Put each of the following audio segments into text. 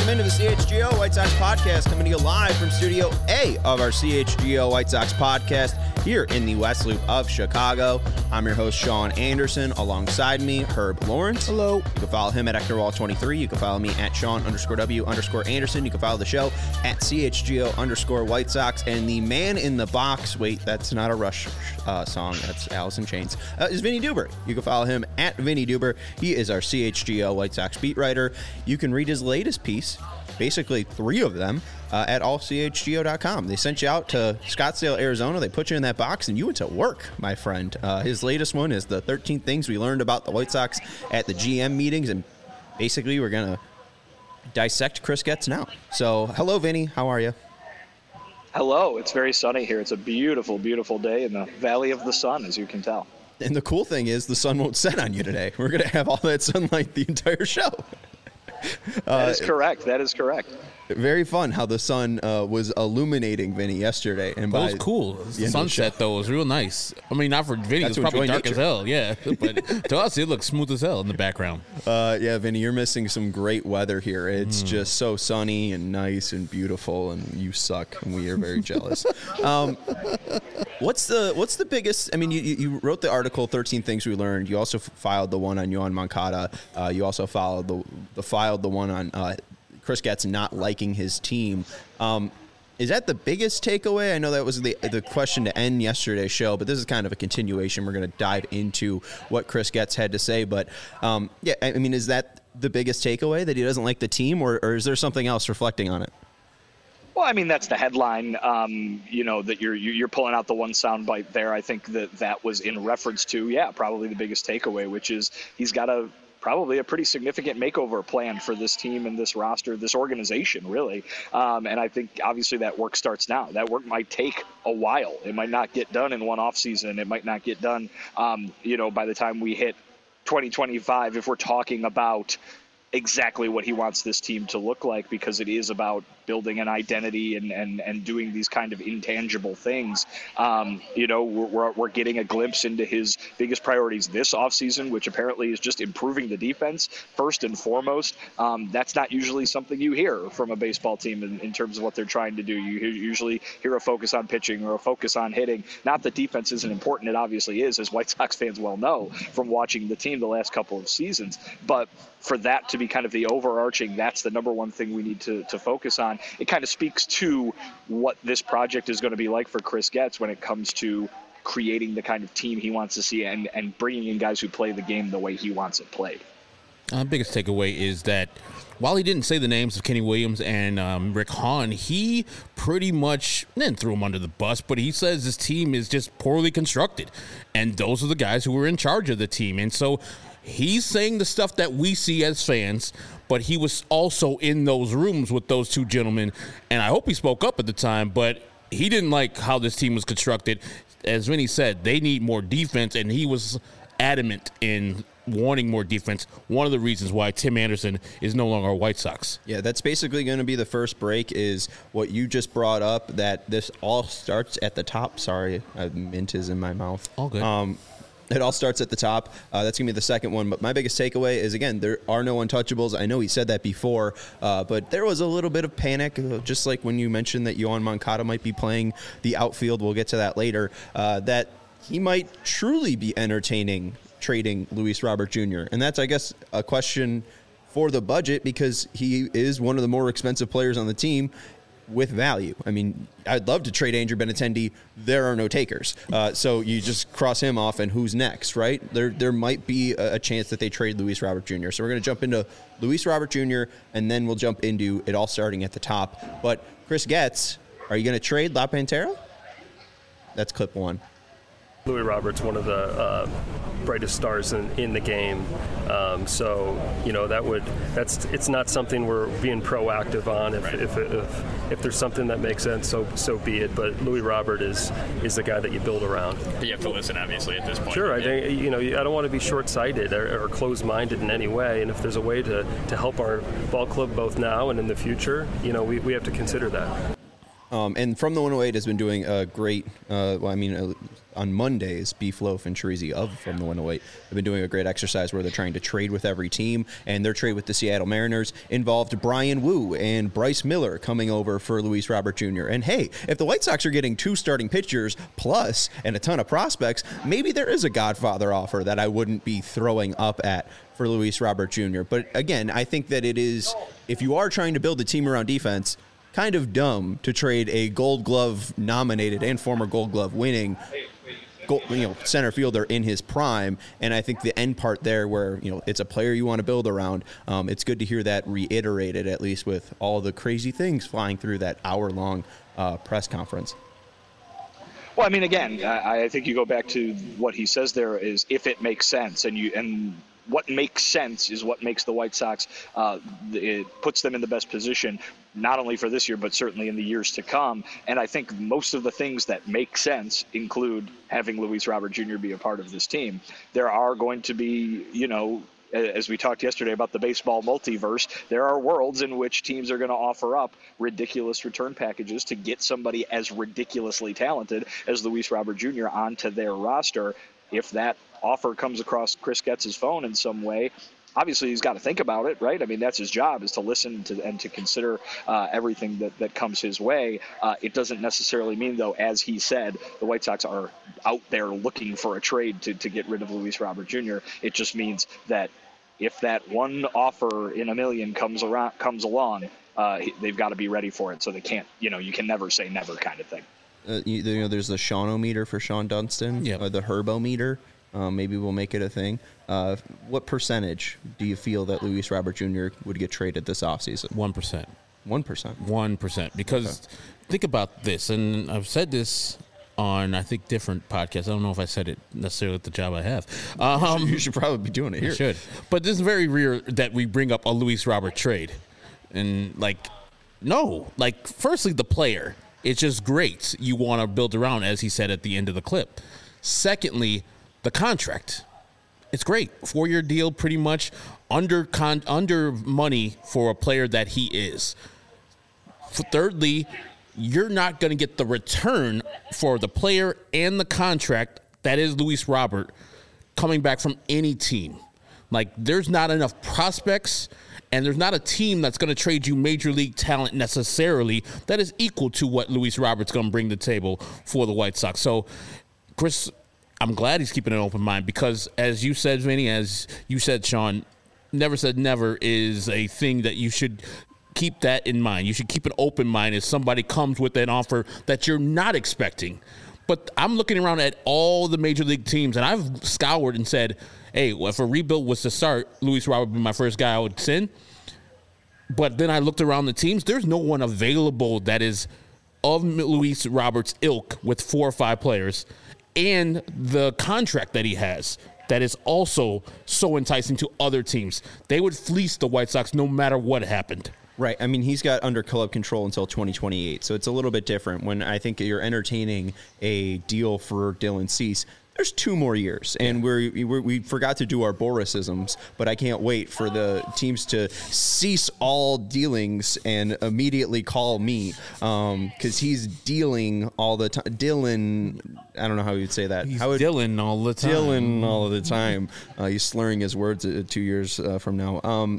Welcome into the CHGO White Sox podcast, coming to you live from Studio A of our CHGO White Sox podcast here in the West Loop of Chicago. I'm your host, Sean Anderson. Alongside me, Herb Lawrence. Hello. You can follow him at EctorWall23. You can follow me at Sean_W_Anderson. You can follow the show at CHGO_White Sox. And the man in the box, wait, that's not a Rush song. That's Alice in Chains, is Vinny Duber. You can follow him at Vinny Duber. He is our CHGO White Sox beat writer. You can read his latest piece, basically 3 of them, at allchgo.com. They sent you out to Scottsdale, Arizona. They put you in that box, and you went to work, my friend. His latest one is the 13 things we learned about the White Sox at the GM meetings, and basically we're going to dissect Chris Getz now. So, hello, Vinny. How are you? Hello. It's very sunny here. It's a beautiful, beautiful day in the Valley of the Sun, as you can tell. And the cool thing is the sun won't set on you today. We're going to have all that sunlight the entire show. That is correct. That is correct. Very fun how the sun was illuminating Vinny yesterday. And that was cool. The sunset, though, was real nice. I mean, not for Vinny. It was probably dark as hell, yeah. But to us, it looks smooth as hell in the background. Yeah, Vinny, you're missing some great weather here. It's just so sunny and nice and beautiful, and you suck, and we are very jealous. What's the biggest? I mean, you wrote the article, 13 Things We Learned. You also filed the one on Yoan Moncada. You also filed the one on Chris Getz not liking his team. Is that the biggest takeaway? I know that was the question to end yesterday's show, but this is kind of a continuation. We're going to dive into what Chris Getz had to say. But, yeah, I mean, is that the biggest takeaway, that he doesn't like the team, or is there something else reflecting on it? Well, I mean, that's the headline, that you're pulling out the one soundbite there. I think that was in reference to, probably the biggest takeaway, which is he's got probably a pretty significant makeover plan for this team and this roster, this organization, really. And I think, obviously, that work starts now. That work might take a while. It might not get done in one offseason. It might not get done, by the time we hit 2025, if we're talking about exactly what he wants this team to look like, because it is about building an identity and doing these kind of intangible things. We're getting a glimpse into his biggest priorities this offseason, which apparently is just improving the defense first and foremost. That's not usually something you hear from a baseball team in terms of what they're trying to do. You usually hear a focus on pitching or a focus on hitting. Not that defense isn't important. It obviously is, as White Sox fans well know from watching the team the last couple of seasons. But for that to be kind of the overarching, that's the number one thing we need to focus on. It kind of speaks to what this project is going to be like for Chris Getz when it comes to creating the kind of team he wants to see and bringing in guys who play the game the way he wants it played. Biggest takeaway is that while he didn't say the names of Kenny Williams and Rick Hahn, he pretty much didn't throw him under the bus, but he says this team is just poorly constructed. And those are the guys who were in charge of the team. And so he's saying the stuff that we see as fans, but he was also in those rooms with those two gentlemen. And I hope he spoke up at the time, but he didn't like how this team was constructed. As Vinny said, they need more defense, and he was adamant in wanting more defense. One of the reasons why Tim Anderson is no longer a White Sox. Yeah, that's basically going to be the first break, is what you just brought up, that this all starts at the top. Sorry, mint is in my mouth. All good. It all starts at the top. That's going to be the second one. But my biggest takeaway is, again, there are no untouchables. I know he said that before, but there was a little bit of panic, just like when you mentioned that Yoan Moncada might be playing the outfield. We'll get to that later, that he might truly be entertaining trading Luis Robert Jr. And that's, I guess, a question for the budget, because he is one of the more expensive players on the team with value. I mean, I'd love to trade Andrew Benintendi. There are no takers. So you just cross him off, and who's next, right? There might be a chance that they trade Luis Robert Jr. So we're going to jump into Luis Robert Jr., and then we'll jump into it all starting at the top. But Chris Getz, are you going to trade La Pantera? That's clip one. Luis Robert's one of the brightest stars in the game, so it's not something we're being proactive on. If there's something that makes sense, so be it. But Luis Robert is the guy that you build around. You have to listen, obviously, at this point. Sure, I think I don't want to be short-sighted or closed-minded in any way. And if there's a way to help our ball club both now and in the future, we have to consider that. And From the 108 has been doing a great, on Mondays, Beef Loaf and Chirizi of From the 108 have been doing a great exercise where they're trying to trade with every team, and their trade with the Seattle Mariners involved Brian Wu and Bryce Miller coming over for Luis Robert Jr. And hey, if the White Sox are getting 2 starting pitchers plus and a ton of prospects, maybe there is a Godfather offer that I wouldn't be throwing up at for Luis Robert Jr. But again, I think that it is, if you are trying to build a team around defense, kind of dumb to trade a Gold Glove nominated and former Gold Glove winning center fielder in his prime. And I think the end part there where, it's a player you want to build around, it's good to hear that reiterated, at least with all the crazy things flying through that hour-long press conference. Well, I mean, again, I think you go back to what he says there is if it makes sense, and what makes sense is what makes the White Sox, it puts them in the best position, not only for this year, but certainly in the years to come. And I think most of the things that make sense include having Luis Robert Jr. be a part of this team. There are going to be, as we talked yesterday about the baseball multiverse, there are worlds in which teams are going to offer up ridiculous return packages to get somebody as ridiculously talented as Luis Robert Jr. onto their roster. If that offer comes across Chris Getz's phone in some way, obviously he's got to think about it, right? I mean, that's his job, is to listen to and to consider everything that comes his way. It doesn't necessarily mean, though, as he said, the White Sox are out there looking for a trade to get rid of Luis Robert Jr. It just means that if that one offer in a million comes along, they've got to be ready for it. So they can't, you can never say never kind of thing. There's the Sean-O-meter for Sean Dunston, the Herbo-meter. Maybe we'll make it a thing. What percentage do you feel that Luis Robert Jr. would get traded this offseason? 1%. 1%? 1%. Because think about this, and I've said this on, I think, different podcasts. I don't know if I said it necessarily at the job I have. You should probably be doing it here. I should. But this is very rare that we bring up a Luis Robert trade. And, firstly, the player. It's just great. You want to build around, as he said at the end of the clip. Secondly, the contract. It's great. 4-year deal, pretty much under money for a player that he is. Thirdly, you're not going to get the return for the player and the contract that is Luis Robert coming back from any team. There's not enough prospects, and there's not a team that's going to trade you major league talent necessarily that is equal to what Luis Robert's going to bring to the table for the White Sox. So, Chris, I'm glad he's keeping an open mind because, as you said, Vinny, as you said, Sean, never said never is a thing that you should keep that in mind. You should keep an open mind if somebody comes with an offer that you're not expecting. But I'm looking around at all the major league teams, and I've scoured and said, hey, if a rebuild was to start, Luis Robert would be my first guy I would send. But then I looked around the teams. There's no one available that is of Luis Robert's ilk with 4 or 5 players and the contract that he has that is also so enticing to other teams. They would fleece the White Sox no matter what happened. Right. I mean, he's got under club control until 2028, so it's a little bit different. When I think you're entertaining a deal for Dylan Cease, there's 2 more years, and we forgot to do our Borisisms, but I can't wait for the teams to cease all dealings and immediately call me because he's dealing all the time. Dylan, I don't know how you'd say that. He's Dylan all the time. Dylan all the time. He's slurring his words 2 years from now.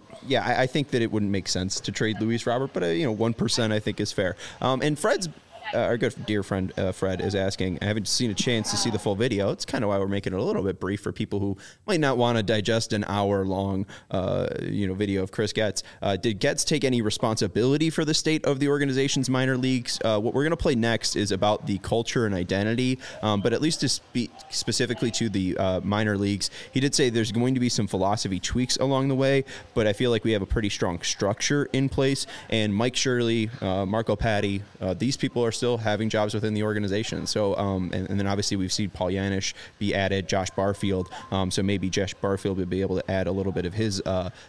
I think that it wouldn't make sense to trade Luis Robert, but 1% I think is fair. And Fred's. Our good dear friend Fred is asking, I haven't seen a chance to see the full video. It's kind of why we're making it a little bit brief for people who might not want to digest an hour-long video of Chris Getz. Did Getz take any responsibility for the state of the organization's minor leagues? What we're going to play next is about the culture and identity, but at least to speak specifically to the minor leagues, he did say there's going to be some philosophy tweaks along the way, but I feel like we have a pretty strong structure in place, and Mike Shirley, Marco Patti, these people are still having jobs within the organization. So, and then obviously we've seen Paul Yanish be added, Josh Barfield. So maybe Josh Barfield would be able to add a little bit of his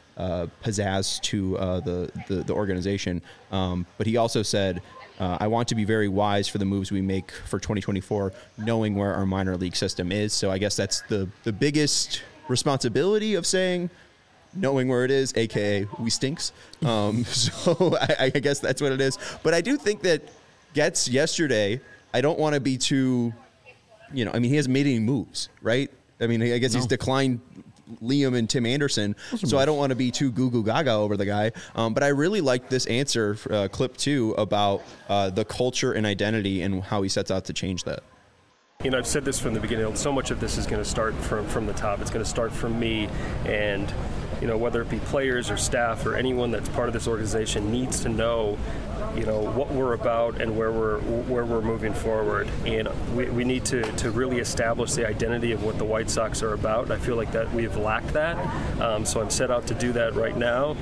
pizzazz to the organization. But he also said, I want to be very wise for the moves we make for 2024, knowing where our minor league system is. So I guess that's the biggest responsibility of saying, knowing where it is, a.k.a. we stinks. So I guess that's what it is. But I do think that Getz yesterday, I don't want to be too, he hasn't made any moves, right? I mean, I guess he's declined Liam and Tim Anderson, so I don't want to be too goo gaga over the guy. But I really like this answer, clip 2, about the culture and identity and how he sets out to change that. I've said this from the beginning. So much of this is going to start from the top. It's going to start from me, and whether it be players or staff or anyone that's part of this organization needs to know, what we're about and where we're moving forward. And we need to really establish the identity of what the White Sox are about. And I feel like that we've lacked that. So I'm set out to do that right now.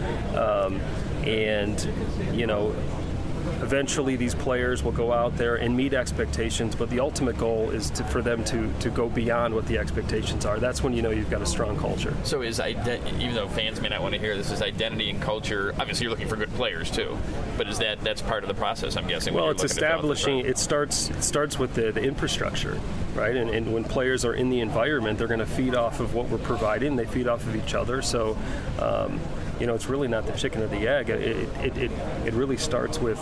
Eventually these players will go out there and meet expectations, but the ultimate goal is for them to go beyond what the expectations are. That's when you've got a strong culture. So even though fans may not want to hear this, is identity and culture, obviously you're looking for good players too, but is that's part of the process, I'm guessing? Well, it's establishing, it starts with the infrastructure, right? And when players are in the environment, they're going to feed off of what we're providing. They feed off of each other. So it's really not the chicken or the egg. It really starts with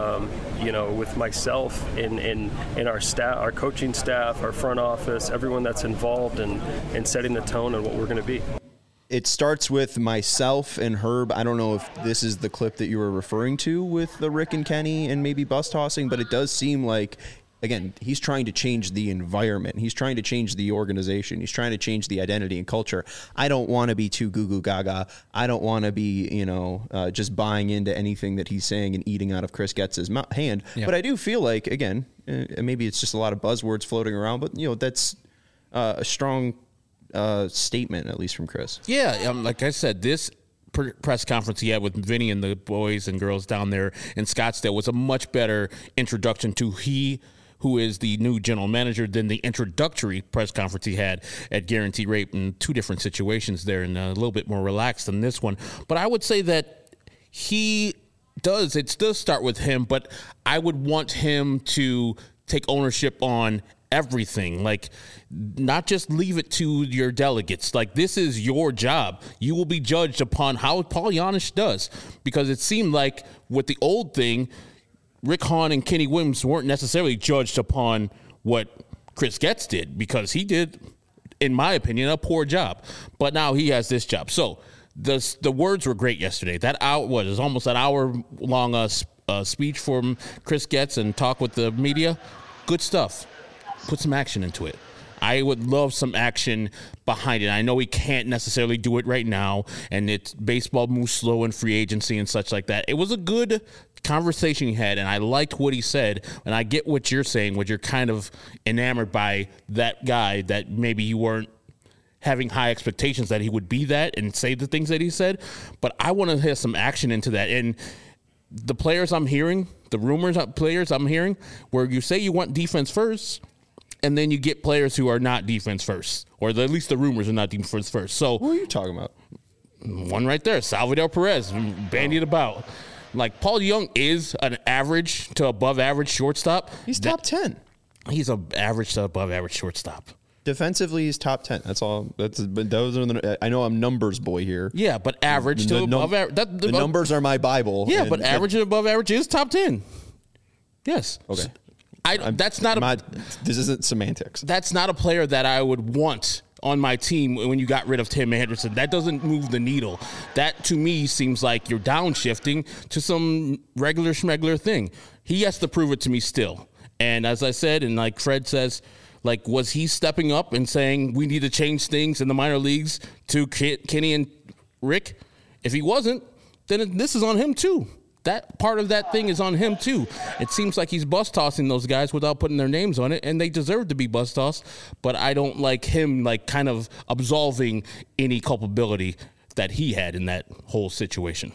with myself and our staff, our coaching staff, our front office, everyone that's involved in setting the tone and what we're going to be. It starts with myself and Herb. I don't know if this is the clip that you were referring to with the Rick and Kenny and maybe bus tossing, but it does seem like, again, he's trying to change the environment. He's trying to change the organization. He's trying to change the identity and culture. I don't want to be too goo gaga. I don't want to be, just buying into anything that he's saying and eating out of Chris Getz's hand. Yeah. But I do feel like, again, maybe it's just a lot of buzzwords floating around, but, that's a strong statement, at least from Chris. Yeah, like I said, this press conference he had with Vinny and the boys and girls down there in Scottsdale was a much better introduction to who is the new general manager than the introductory press conference he had at Guarantee Rate in 2 different situations there, and a little bit more relaxed than this one. But I would say that it does start with him, but I would want him to take ownership on everything, like not just leave it to your delegates. Like, this is your job. You will be judged upon how Paul Janisch does, because it seemed like with the old thing, Rick Hahn and Kenny Williams weren't necessarily judged upon what Chris Getz did, because he did, in my opinion, a poor job. But now he has this job. So the words were great yesterday. That was almost an hour-long speech from Chris Getz and talk with the media. Good stuff. Put some action into it. I would love some action behind it. I know he can't necessarily do it right now, and baseball moves slow in free agency and such like that. It was a good conversation he had, and I liked what he said, and I get what you're saying, what you're kind of enamored by that guy, that maybe you weren't having high expectations that he would be that and say the things that he said, but I want to have some action into that. And the players I'm hearing, the rumors of players I'm hearing, where you say you want defense first, and then you get players who are not defense first, or at least the rumors are not defense first. So who are you talking about? One right there, Salvador Perez, bandied about. Like, Paul Young is an average to above average shortstop. He's top 10. He's an average to above average shortstop. Defensively, he's top 10. That's all. Those are I know I'm numbers boy here. Yeah, but average to above average. The numbers are my Bible. Yeah, but average and above average is top 10. Yes. Okay. This isn't semantics. That's not a player that I would want on my team when you got rid of Tim Anderson. That doesn't move the needle. That, to me, seems like you're downshifting to some regular schmegler thing. He has to prove it to me still. And as I said, and like Fred says, like, was he stepping up and saying we need to change things in the minor leagues to Kenny and Rick? If he wasn't, then this is on him too. That part of that thing is on him too. It seems like he's bus tossing those guys without putting their names on it, and they deserve to be bus tossed. But I don't like him, like, kind of absolving any culpability that he had in that whole situation.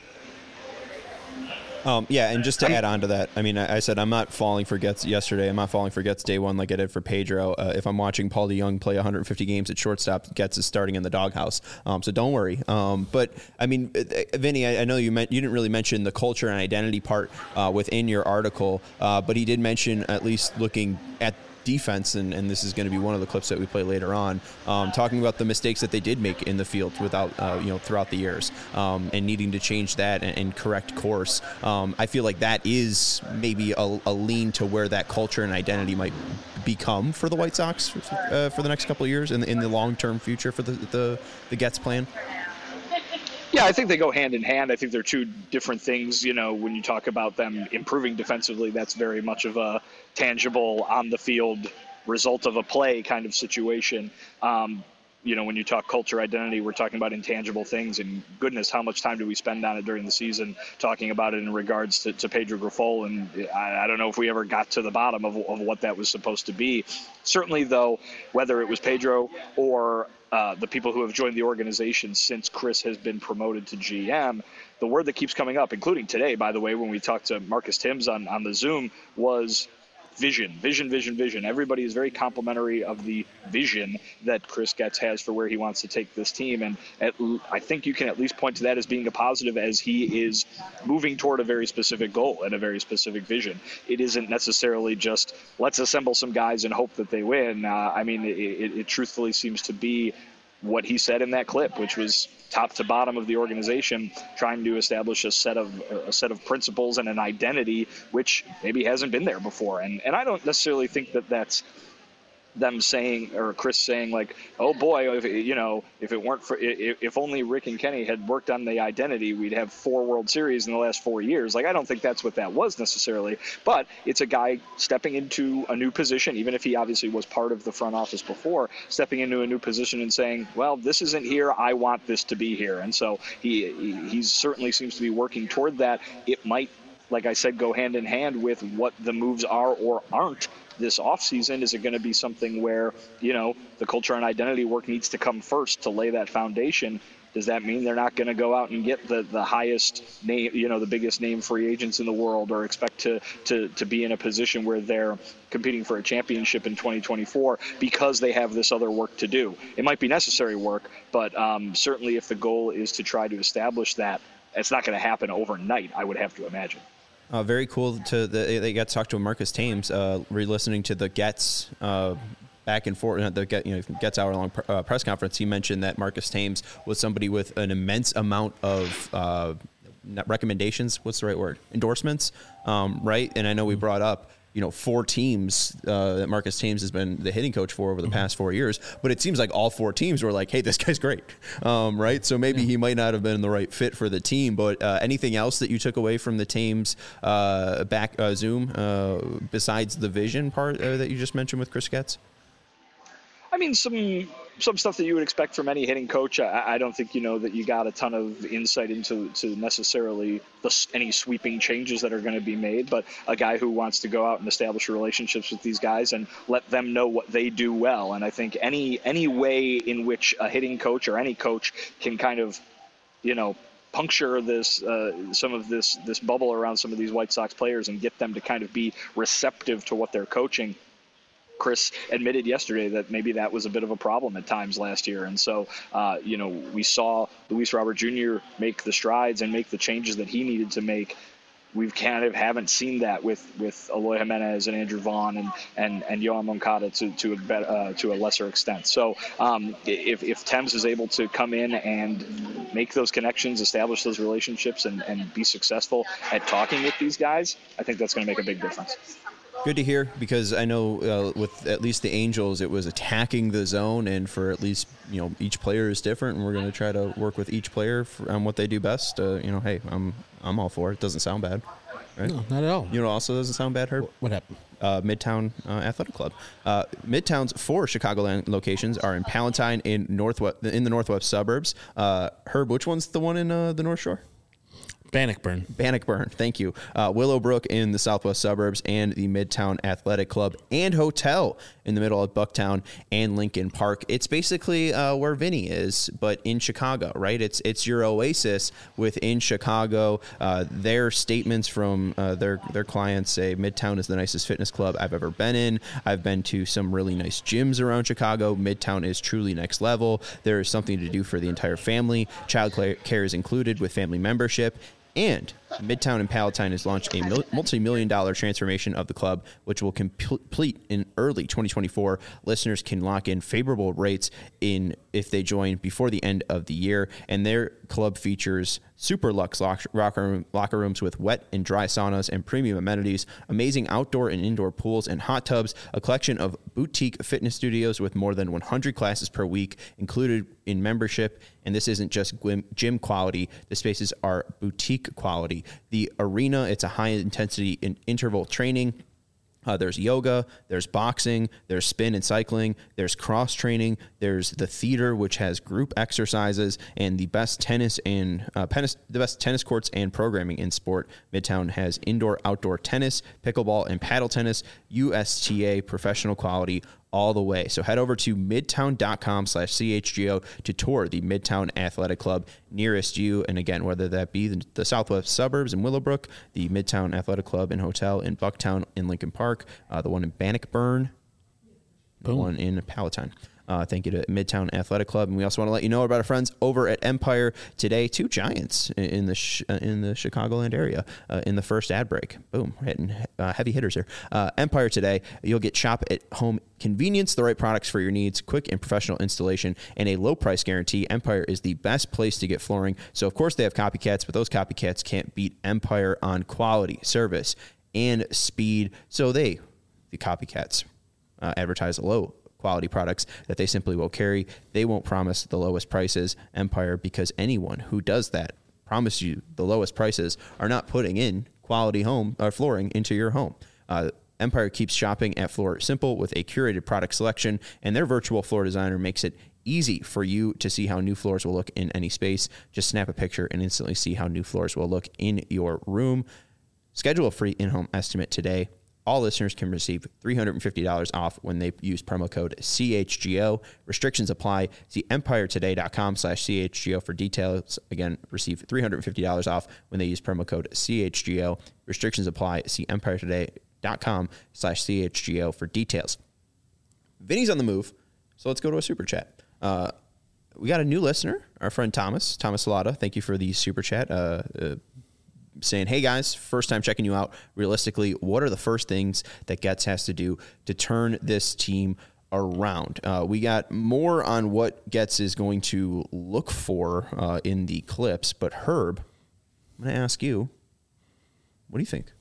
Yeah, and just to add on to that, I mean, I said I'm not falling for Getz yesterday. I'm not falling for Getz day one like I did for Pedro. If I'm watching Paul DeJong play 150 games at shortstop, Getz is starting in the doghouse. So don't worry. But, I mean, Vinny, I know you didn't really mention the culture and identity part within your article, but he did mention, at least looking at defense, and this is going to be one of the clips that we play later on, talking about the mistakes that they did make in the field without, throughout the years, and needing to change that and correct course. I feel like that is maybe a lean to where that culture and identity might become for the White Sox for the next couple of years in the long-term future for the Getz plan. Yeah, I think they go hand in hand. I think they're two different things. When you talk about them improving defensively, that's very much of a tangible, on-the-field result of a play kind of situation. When you talk culture, identity, we're talking about intangible things. And goodness, how much time do we spend on it during the season talking about it in regards to Pedro Grifol? And I don't know if we ever got to the bottom of what that was supposed to be. Certainly, though, whether it was Pedro or the people who have joined the organization since Chris has been promoted to GM, the word that keeps coming up, including today, by the way, when we talked to Marcus Timms on the Zoom, was vision. Everybody is very complimentary of the vision that Chris Getz has for where he wants to take this team. And I think you can at least point to that as being a positive, as he is moving toward a very specific goal and a very specific vision. It isn't necessarily just let's assemble some guys and hope that they win. It truthfully seems to be what he said in that clip, which was top to bottom of the organization, trying to establish a set of principles and an identity which maybe hasn't been there before. And I don't necessarily think that that's them saying, or Chris saying, like, oh boy, if only Rick and Kenny had worked on the identity, we'd have 4 World Series in the last 4 years. Like, I don't think that's what that was necessarily, but it's a guy stepping into a new position, even if he obviously was part of the front office before, stepping into a new position and saying, well, this isn't here, I want this to be here. And so he certainly seems to be working toward that. It might, like I said, go hand in hand with what the moves are or aren't this offseason. Is it going to be something where, the culture and identity work needs to come first to lay that foundation? Does that mean they're not going to go out and get the highest name, the biggest name free agents in the world, or expect to be in a position where they're competing for a championship in 2024 because they have this other work to do? It might be necessary work, but certainly if the goal is to try to establish that, it's not going to happen overnight, I would have to imagine. Very cool. They got to talk to Marcus Thames, re-listening to the Getz back and forth, the Getz hour-long press conference. He mentioned that Marcus Thames was somebody with an immense amount of recommendations. What's the right word? Endorsements, right? And I know we brought up 4 teams that Marcus Thames has been the hitting coach for over the past 4 years, but it seems like all 4 teams were like, hey, this guy's great, right? So maybe he might not have been the right fit for the team, but anything else that you took away from the Thames Zoom besides the vision part that you just mentioned with Chris Getz? Some stuff that you would expect from any hitting coach. I don't think that you got a ton of insight into necessarily any sweeping changes that are going to be made, but a guy who wants to go out and establish relationships with these guys and let them know what they do well. And I think any way in which a hitting coach or any coach can kind of puncture this some of this bubble around some of these White Sox players and get them to kind of be receptive to what they're coaching. Chris admitted yesterday that maybe that was a bit of a problem at times last year. And so, we saw Luis Robert Jr. make the strides and make the changes that he needed to make. We kind of haven't seen that with Eloy Jimenez and Andrew Vaughn and Yoán Moncada to a lesser extent. So if Thames is able to come in and make those connections, establish those relationships, and be successful at talking with these guys, I think that's going to make a big difference. Good to hear, because I know with at least the Angels, it was attacking the zone, and for at least each player is different, and we're going to try to work with each player on what they do best. Hey, I'm all for it. Doesn't sound bad, right? No, not at all. Also doesn't sound bad, Herb. What happened? Midtown Athletic Club. Midtown's 4 Chicagoland locations are in Palatine in the northwest suburbs. Herb, which one's the one in the North Shore? Bannockburn, thank you. Willowbrook in the southwest suburbs, and the Midtown Athletic Club and Hotel in the middle of Bucktown and Lincoln Park. It's basically where Vinny is, but in Chicago, right? It's your oasis within Chicago. Their statements from their clients say Midtown is the nicest fitness club I've ever been in. I've been to some really nice gyms around Chicago. Midtown is truly next level. There is something to do for the entire family. Child care is included with family membership. And Midtown and Palatine has launched a multi-million-dollar transformation of the club, which will complete in early 2024. Listeners can lock in favorable rates if they join before the end of the year. And their club features super luxe locker rooms with wet and dry saunas and premium amenities, amazing outdoor and indoor pools and hot tubs, a collection of boutique fitness studios with more than 100 classes per week included in membership. And this isn't just gym quality. The spaces are boutique quality. The arena, it's a high-intensity interval training. There's yoga, there's boxing, there's spin and cycling, there's cross training, there's the theater, which has group exercises, and the best tennis courts and programming in sport. Midtown has indoor, outdoor tennis, pickleball, and paddle tennis, USTA professional quality all the way. So head over to midtown.com/CHGO to tour the Midtown Athletic Club nearest you. And again, whether that be the southwest suburbs in Willowbrook, the Midtown Athletic Club and Hotel in Bucktown in Lincoln Park, the one in Bannockburn, the one in Palatine. Thank you to Midtown Athletic Club. And we also want to let you know about our friends over at Empire today. 2 Giants in the Chicagoland area in the first ad break. Boom, hitting heavy hitters here. Empire today, you'll get shop at home convenience, the right products for your needs, quick and professional installation, and a low price guarantee. Empire is the best place to get flooring. So, of course, they have copycats, but those copycats can't beat Empire on quality, service, and speed. So the copycats, advertise low quality products that they simply will carry. They won't promise the lowest prices, Empire, because anyone who does that promise you the lowest prices are not putting in quality home or flooring into your home. Empire keeps shopping at Floor simple with a curated product selection, and their virtual floor designer makes it easy for you to see how new floors will look in any space. Just snap a picture and instantly see how new floors will look in your room. Schedule a free in-home estimate today. All listeners can receive $350 off when they use promo code CHGO. Restrictions apply. See empiretoday.com/CHGO for details. Again, receive $350 off when they use promo code CHGO. Restrictions apply. See empiretoday.com/CHGO for details. Vinny's on the move, so let's go to a super chat. We got a new listener, our friend Thomas Salata. Thank you for the super chat. Saying, hey guys, first time checking you out. Realistically, what are the first things that Getz has to do to turn this team around? We got more on what Getz is going to look for in the clips, but Herb, I'm going to ask you, what do you think?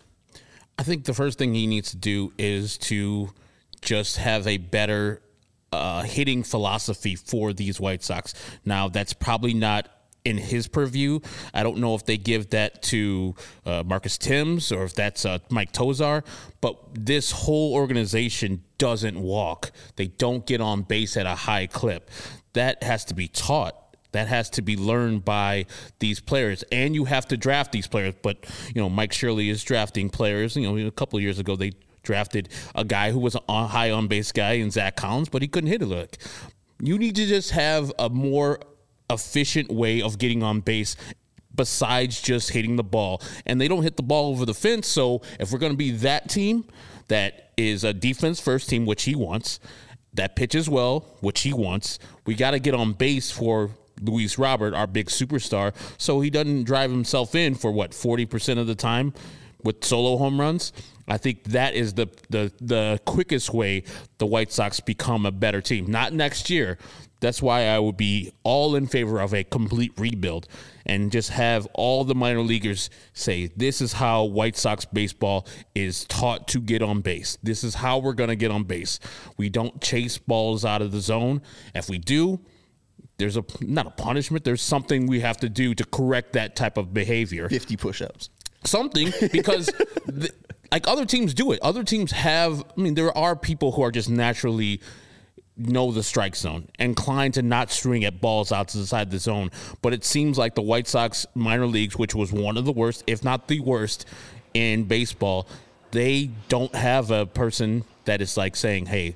I think the first thing he needs to do is to just have a better hitting philosophy for these White Sox. Now, that's probably not in his purview. I don't know if they give that to Marcus Timms or if that's Mike Tozar, but this whole organization doesn't walk. They don't get on base at a high clip. That has to be taught. That has to be learned by these players, and you have to draft these players. But, Mike Shirley is drafting players. A couple of years ago, they drafted a guy who was a high on-base guy in Zach Collins, but he couldn't hit a lick. You need to just have a more efficient way of getting on base besides just hitting the ball. And they don't hit the ball over the fence. So if we're going to be that team that is a defense first team, which he wants, that pitches well, which he wants, we got to get on base for Luis Robert, our big superstar, so he doesn't drive himself in for 40% of the time with solo home runs. I think that is the quickest way the White Sox become a better team. Not next year. That's why I would be all in favor of a complete rebuild and just have all the minor leaguers say, this is how White Sox baseball is taught to get on base. This is how we're going to get on base. We don't chase balls out of the zone. If we do, there's not a punishment. There's something we have to do to correct that type of behavior. 50 push-ups. Something, because like other teams do it. Other teams have, there are people who are just naturally know the strike zone, inclined to not swing at balls outside the zone. But it seems like the White Sox minor leagues, which was one of the worst, if not the worst in baseball, they don't have a person that is like saying, hey,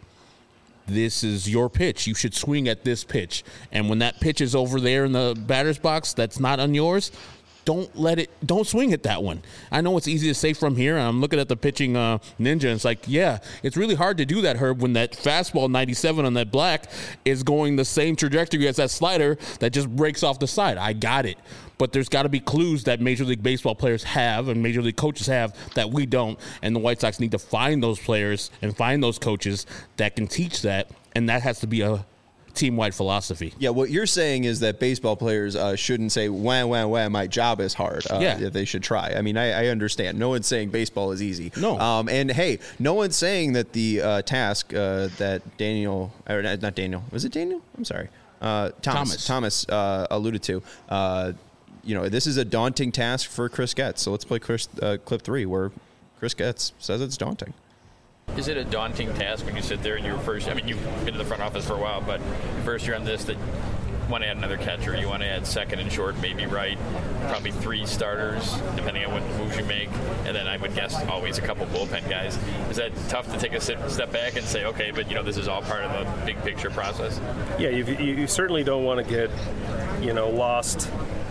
this is your pitch. You should swing at this pitch. And when that pitch is over there in the batter's box, that's not on yours, don't swing at that one. I know it's easy to say from here. I'm looking at the pitching ninja, and it's like, yeah, it's really hard to do that, Herb, when that fastball 97 on that black is going the same trajectory as that slider that just breaks off the side. I got it. But there's got to be clues that Major League Baseball players have and Major League coaches have that we don't, and the White Sox need to find those players and find those coaches that can teach that, and that has to be a team-wide philosophy. Yeah, what you're saying is that baseball players shouldn't say, wah, my job is hard. They should try. I mean, I understand. No one's saying baseball is easy. No. And, hey, no one's saying that the task that Daniel, or not Daniel, was it Daniel? I'm sorry. Thomas alluded to, this is a daunting task for Chris Getz. So let's play clip 3 where Chris Getz says it's daunting. Is it a daunting task when you sit there and you're first? I mean, you've been to the front office for a while, but first you're on this that you want to add another catcher, you want to add second and short, maybe right, probably 3 starters, depending on what moves you make, and then I would guess always a couple bullpen guys. Is that tough to take a step back and say, okay, but this is all part of the big picture process? Yeah, you certainly don't want to get, lost.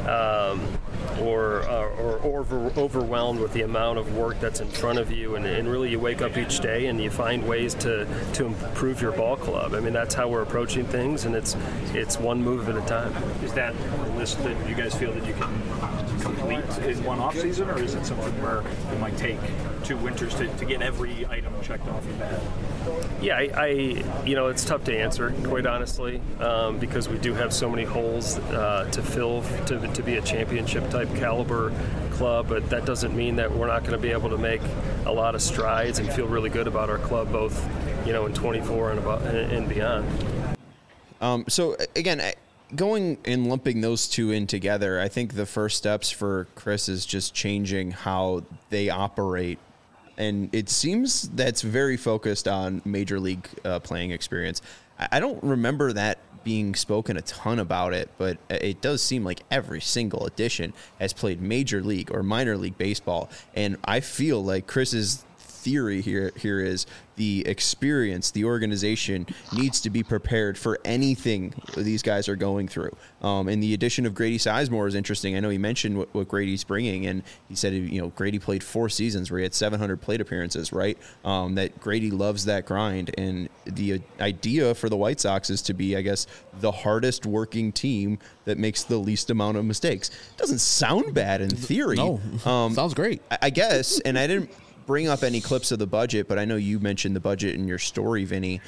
Or overwhelmed with the amount of work that's in front of you, and really you wake up each day and you find ways to improve your ball club. I mean, that's how we're approaching things, and it's one move at a time. Is that a list that you guys feel that you can complete in one off season, or is it something where it might take 2 winters to get every item checked off your bat? Yeah, it's tough to answer, quite honestly, because we do have so many holes to fill to be a championship type caliber club, but that doesn't mean that we're not going to be able to make a lot of strides and feel really good about our club, both in 24 and beyond. So again, going and lumping those two in together, I think the first steps for Chris is just changing how they operate. And it seems that's very focused on major league playing experience. I don't remember that being spoken a ton about it, but it does seem like every single edition has played major league or minor league baseball. And I feel like Chris's theory here is the experience, the organization needs to be prepared for anything these guys are going through. And the addition of Grady Sizemore is interesting. I know he mentioned what Grady's bringing, and he said, Grady played 4 seasons where he had 700 plate appearances, right? That Grady loves that grind. And the idea for the White Sox is to be, I guess, the hardest working team that makes the least amount of mistakes. Doesn't sound bad in theory. No, sounds great. I guess, and I didn't bring up any clips of the budget, but I know you mentioned the budget in your story, Vinny.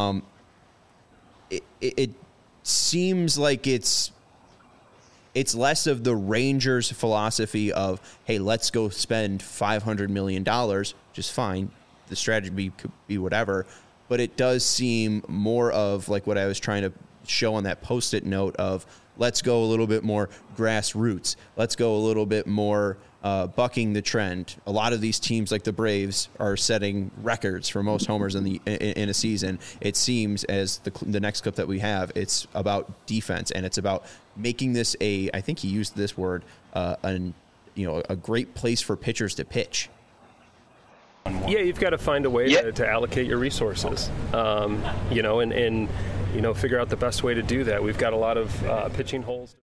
It seems like it's less of the Rangers' philosophy of, hey, let's go spend $500 million, which is fine. The strategy could be whatever, but it does seem more of like what I was trying to show on that Post-it note of let's go a little bit more grassroots. Let's go a little bit more bucking the trend. A lot of these teams, like the Braves, are setting records for most homers in a season. It seems, as the next clip that we have, it's about defense, and it's about making this I think he used this word, a great place for pitchers to pitch. Yeah, you've got to find a way to allocate your resources, and figure out the best way to do that. We've got a lot of pitching holes.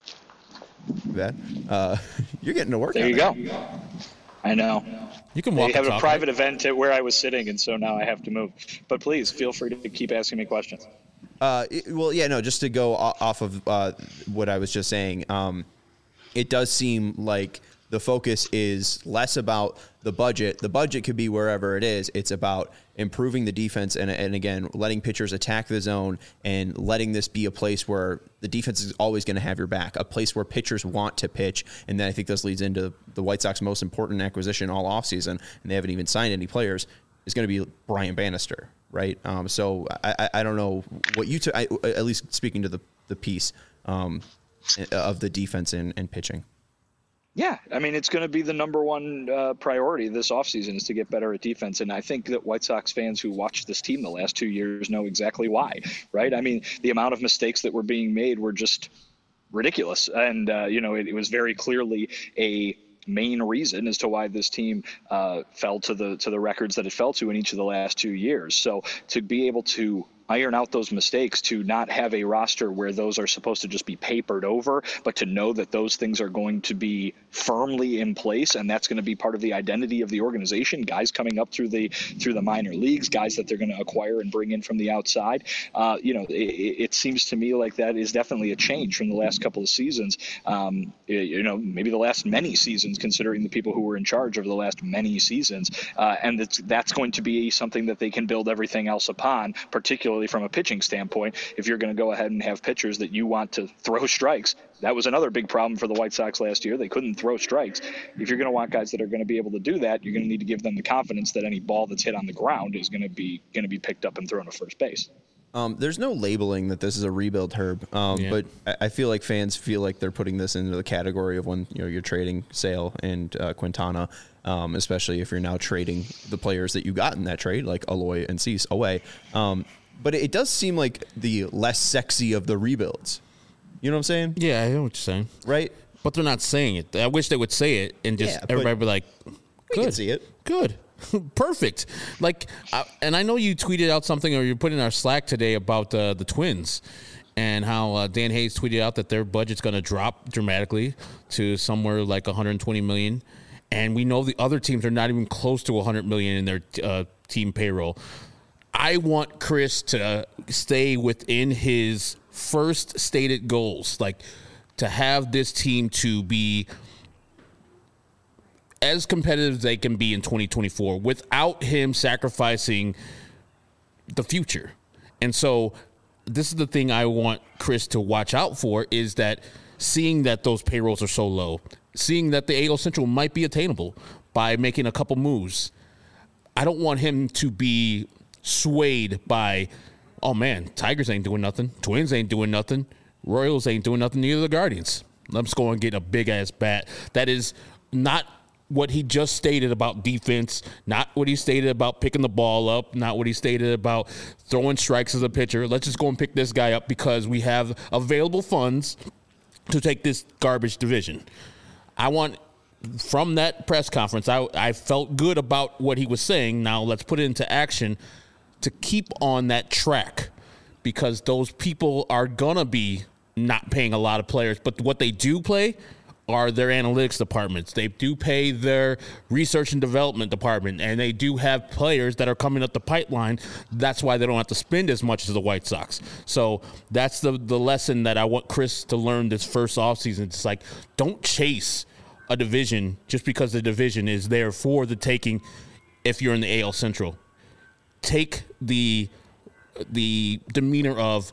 You're getting to work. There you go. I know. You can walk. They have a private event at where I was sitting, and so now I have to move. But please feel free to keep asking me questions. Just to go off of what I was just saying, it does seem like the focus is less about the budget. The budget could be wherever it is. It's about improving the defense and again, letting pitchers attack the zone and letting this be a place where the defense is always going to have your back, a place where pitchers want to pitch. And then I think this leads into the White Sox most important acquisition all offseason, and they haven't even signed any players, is going to be Brian Bannister, right? So I don't know what you at least speaking to the piece of the defense and pitching. Yeah, I mean, it's going to be the number one priority this offseason is to get better at defense. And I think that White Sox fans who watched this team the last 2 years know exactly why, right? I mean, the amount of mistakes that were being made were just ridiculous. And, it was very clearly a main reason as to why this team fell to the records that it fell to in each of the last 2 years. So to be able to iron out those mistakes, to not have a roster where those are supposed to just be papered over, but to know that those things are going to be firmly in place, and that's going to be part of the identity of the organization. Guys coming up through the minor leagues, guys that they're going to acquire and bring in from the outside. It seems to me like that is definitely a change from the last couple of seasons. Maybe the last many seasons, considering the people who were in charge over the last many seasons, and that's going to be something that they can build everything else upon, particularly from a pitching standpoint. If you're going to go ahead and have pitchers that you want to throw strikes, that was another big problem for the White Sox last year. They couldn't throw strikes. If you're going to want guys that are going to be able to do that, you're going to need to give them the confidence that any ball that's hit on the ground is going to be picked up and thrown to first base. There's no labeling that this is a rebuild, Herb. But I feel like fans feel like they're putting this into the category of when you're trading Sale and Quintana, especially if you're now trading the players that you got in that trade, like Aloy and Cease, away. But it does seem like the less sexy of the rebuilds. You know what I'm saying? Yeah, I know what you're saying. Right? But they're not saying it. I wish they would say it and just everybody be like, good. We can see it. Good. Perfect. And I know you tweeted out something, or you put in our Slack today about the Twins and how Dan Hayes tweeted out that their budget's going to drop dramatically to somewhere like $120 million. And we know the other teams are not even close to $100 million in their team payroll. I want Chris to stay within his first stated goals, like to have this team to be as competitive as they can be in 2024 without him sacrificing the future. And so this is the thing I want Chris to watch out for, is that seeing that those payrolls are so low, seeing that the AL Central might be attainable by making a couple moves. I don't want him to be swayed by, oh man, Tigers ain't doing nothing, Twins ain't doing nothing, Royals ain't doing nothing, neither the Guardians. Let's go and get a big-ass bat. That is not what he just stated about defense, not what he stated about picking the ball up, not what he stated about throwing strikes as a pitcher. Let's just go and pick this guy up because we have available funds to take this garbage division. I want, from that press conference, I felt good about what he was saying. Now let's put it into action to keep on that track, because those people are going to be not paying a lot of players, but what they do play are their analytics departments. They do pay their research and development department, and they do have players that are coming up the pipeline. That's why they don't have to spend as much as the White Sox. So that's the lesson that I want Chris to learn this first offseason. It's like, don't chase a division just because the division is there for the taking if you're in the AL Central. Take the demeanor of,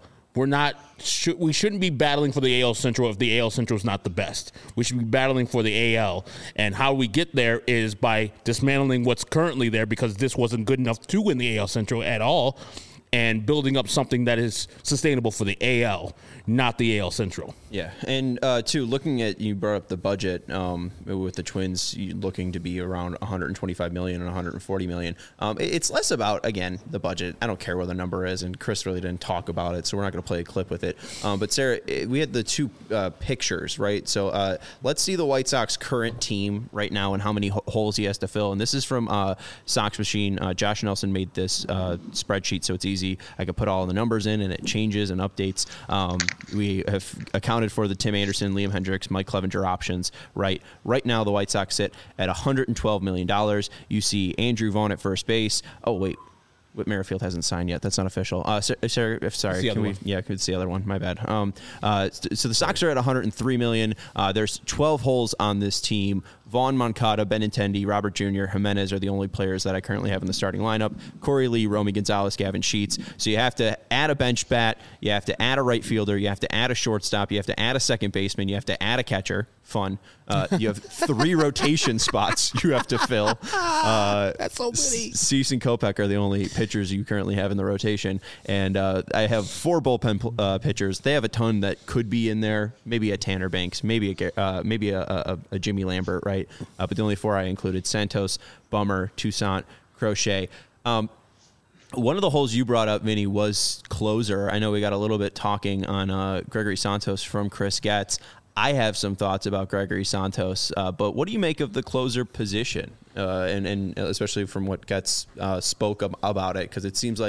we shouldn't be battling for the AL Central if the AL Central is not the best. We should be battling for the AL, and how we get there is by dismantling what's currently there, because this wasn't good enough to win the AL Central at all, and building up something that is sustainable for the AL, not the AL Central. Yeah, and too, looking at, you brought up the budget with the Twins looking to be around $125 million and $140 million. It's less about, again, the budget. I don't care what the number is, and Chris really didn't talk about it, so we're not going to play a clip with it. But Sarah, we had the two pictures, right? So let's see the White Sox current team right now and how many holes he has to fill. And this is from Sox Machine. Josh Nelson made this spreadsheet, so it's easy. I could put all the numbers in, and it changes and updates. We have accounted for the Tim Anderson, Liam Hendricks, Mike Clevenger options. Right now, the White Sox sit at $112 million. You see Andrew Vaughn at first base. Oh, wait. Whit Merrifield hasn't signed yet. That's not official. Sorry. Can we? Yeah, it's the other one. My bad. So the Sox are at $103 million. There's 12 holes on this team. Vaughn, Moncada, Benintendi, Robert Jr., Jimenez are the only players that I currently have in the starting lineup. Corey Lee, Romy Gonzalez, Gavin Sheets. So you have to add a bench bat. You have to add a right fielder. You have to add a shortstop. You have to add a second baseman. You have to add a catcher. Fun. You have 3 rotation spots you have to fill. That's so many. Cease and Kopech are the only pitchers you currently have in the rotation. And I have 4 bullpen pitchers. They have a ton that could be in there. Maybe a Tanner Banks. Maybe a Jimmy Lambert, right? But the only 4 I included: Santos, Bummer, Toussaint, Crochet. One of the holes you brought up, Vinny, was closer. I know we got a little bit talking on Gregory Santos from Chris Getz. I have some thoughts about Gregory Santos, but what do you make of the closer position, and especially from what Getz spoke about it? Because it seems like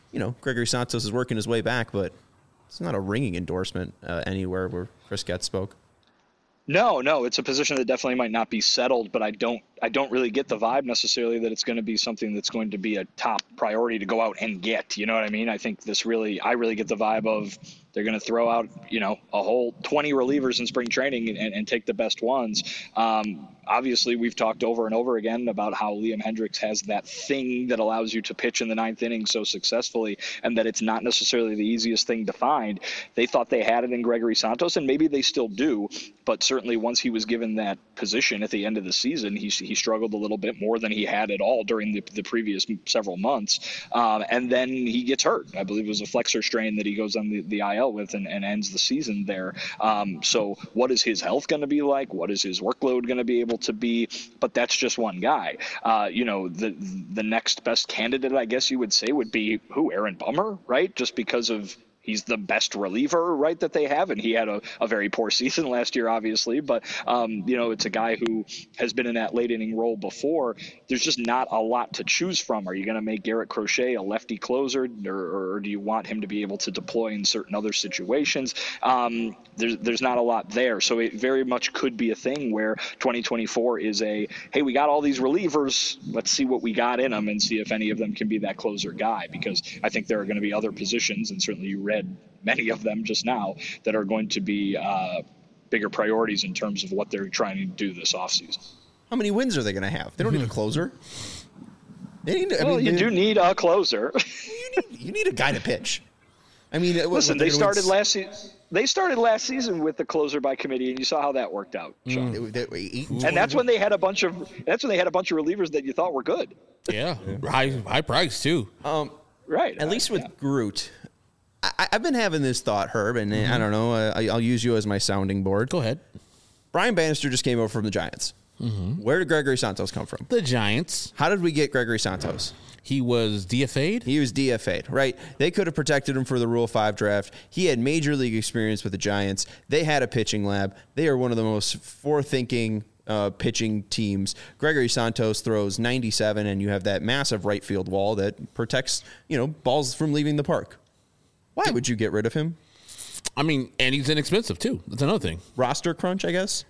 Gregory Santos is working his way back, but it's not a ringing endorsement anywhere where Chris Getz spoke. No, it's a position that definitely might not be settled, but I don't really get the vibe necessarily that it's going to be something that's going to be a top priority to go out and get. You know what I mean? I think I really get the vibe of they're going to throw out, a whole 20 relievers in spring training and take the best ones. Obviously, we've talked over and over again about how Liam Hendriks has that thing that allows you to pitch in the ninth inning so successfully, and that it's not necessarily the easiest thing to find. They thought they had it in Gregory Santos, and maybe they still do, but certainly once he was given that position at the end of the season, he struggled a little bit more than he had at all during the previous several months. And then he gets hurt. I believe it was a flexor strain that he goes on the IL with and ends the season there. So what is his health going to be like? What is his workload going to be able to be? But that's just one guy. The next best candidate, I guess you would say, would be Aaron Bummer, right? Just because of he's the best reliever, right, that they have, and he had a very poor season last year, obviously. But it's a guy who has been in that late inning role before. There's just not a lot to choose from. Are you going to make Garrett Crochet a lefty closer, or do you want him to be able to deploy in certain other situations? There's not a lot there, so it very much could be a thing where 2024 is hey, we got all these relievers, let's see what we got in them and see if any of them can be that closer guy, because I think there are going to be other positions, and certainly you read many of them just now, that are going to be bigger priorities in terms of what they're trying to do this offseason. How many wins are they going to have? They don't need a closer. You do need a closer. You need a guy to pitch. I mean, listen, they started last season. They started last season with the closer by committee, and you saw how that worked out, Sean. And that's when they had a bunch of relievers that you thought were good. Yeah, high price too. Right. At least with Groot. I've been having this thought, Herb, and I don't know. I'll use you as my sounding board. Go ahead. Brian Bannister just came over from the Giants. Mm-hmm. Where did Gregory Santos come from? The Giants. How did we get Gregory Santos? He was DFA'd? He was DFA'd, right? They could have protected him for the Rule 5 draft. He had major league experience with the Giants. They had a pitching lab. They are one of the most forward-thinking pitching teams. Gregory Santos throws 97, and you have that massive right field wall that protects, balls from leaving the park. Why would you get rid of him? I mean, and he's inexpensive, too. That's another thing. Roster crunch, I guess?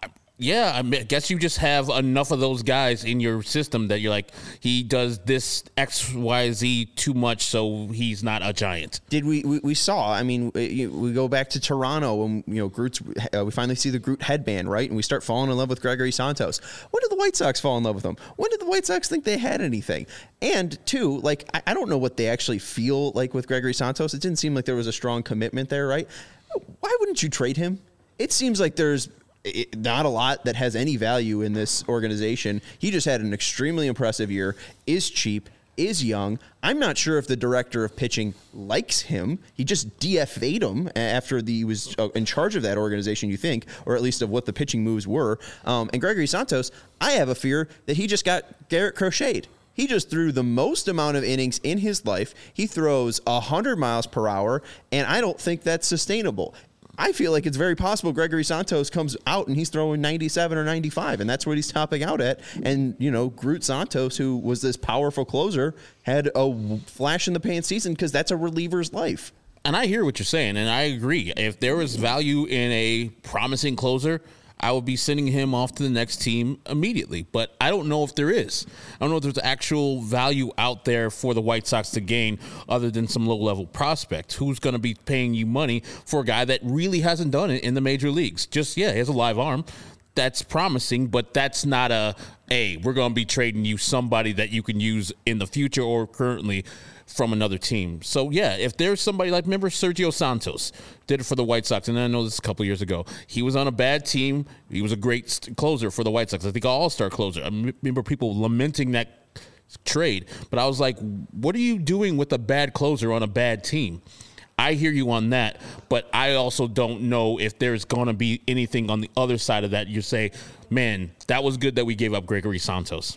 I guess you just have enough of those guys in your system that you're like, he does this X, Y, Z too much, so he's not a Giant. Did we saw? I mean, we go back to Toronto when Groot's. We finally see the Groot headband, right? And we start falling in love with Gregory Santos. When did the White Sox fall in love with him? When did the White Sox think they had anything? And two, I don't know what they actually feel like with Gregory Santos. It didn't seem like there was a strong commitment there, right? Why wouldn't you trade him? It seems like there's not a lot that has any value in this organization. He just had an extremely impressive year, is cheap, is young. I'm not sure if the director of pitching likes him. He just DFA'd him after he was in charge of that organization, you think, or at least of what the pitching moves were. And Gregory Santos, I have a fear that he just got Garrett Crochet'd. He just threw the most amount of innings in his life. He throws 100 miles per hour, and I don't think that's sustainable. I feel like it's very possible Gregory Santos comes out and he's throwing 97 or 95, and that's what he's topping out at. And, Groot Santos, who was this powerful closer, had a flash in the pan season because that's a reliever's life. And I hear what you're saying, and I agree. If there was value in a promising closer, I would be sending him off to the next team immediately. But I don't know if there is. I don't know if there's actual value out there for the White Sox to gain other than some low-level prospect. Who's going to be paying you money for a guy that really hasn't done it in the major leagues? He has a live arm. That's promising, but that's not we're going to be trading you somebody that you can use in the future or currently from another team. So, if there's somebody remember Sergio Santos did it for the White Sox, and I know this a couple years ago. He was on a bad team. He was a great closer for the White Sox. I think an all-star closer. I remember people lamenting that trade, but I was like, what are you doing with a bad closer on a bad team? I hear you on that, but I also don't know if there's going to be anything on the other side of that. You say, man, that was good that we gave up Gregory Santos.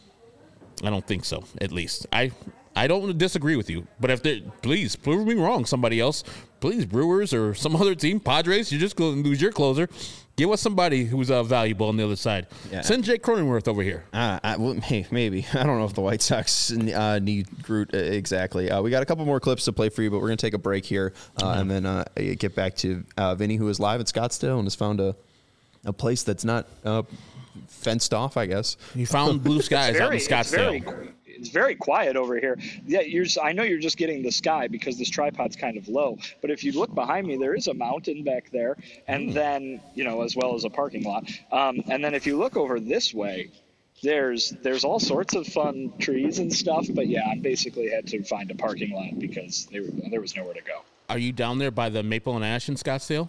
I don't think so, at least. I don't disagree with you, but please prove me wrong. Somebody else, please, Brewers or some other team, Padres, you're just going to lose your closer. Give us somebody who's valuable on the other side. Yeah. Send Jake Cronenworth over here. Hey, maybe. I don't know if the White Sox need Groot exactly. We got a couple more clips to play for you, but we're going to take a break here and then get back to Vinny, who is live at Scottsdale and has found a place that's not fenced off, I guess. He found blue skies out in Scottsdale. It's very quiet over here. Yeah, I know you're just getting the sky because this tripod's kind of low. But if you look behind me, there is a mountain back there, and then as well as a parking lot. And then if you look over this way, there's all sorts of fun trees and stuff. But yeah, I basically had to find a parking lot because there was nowhere to go. Are you down there by the Maple and Ash in Scottsdale?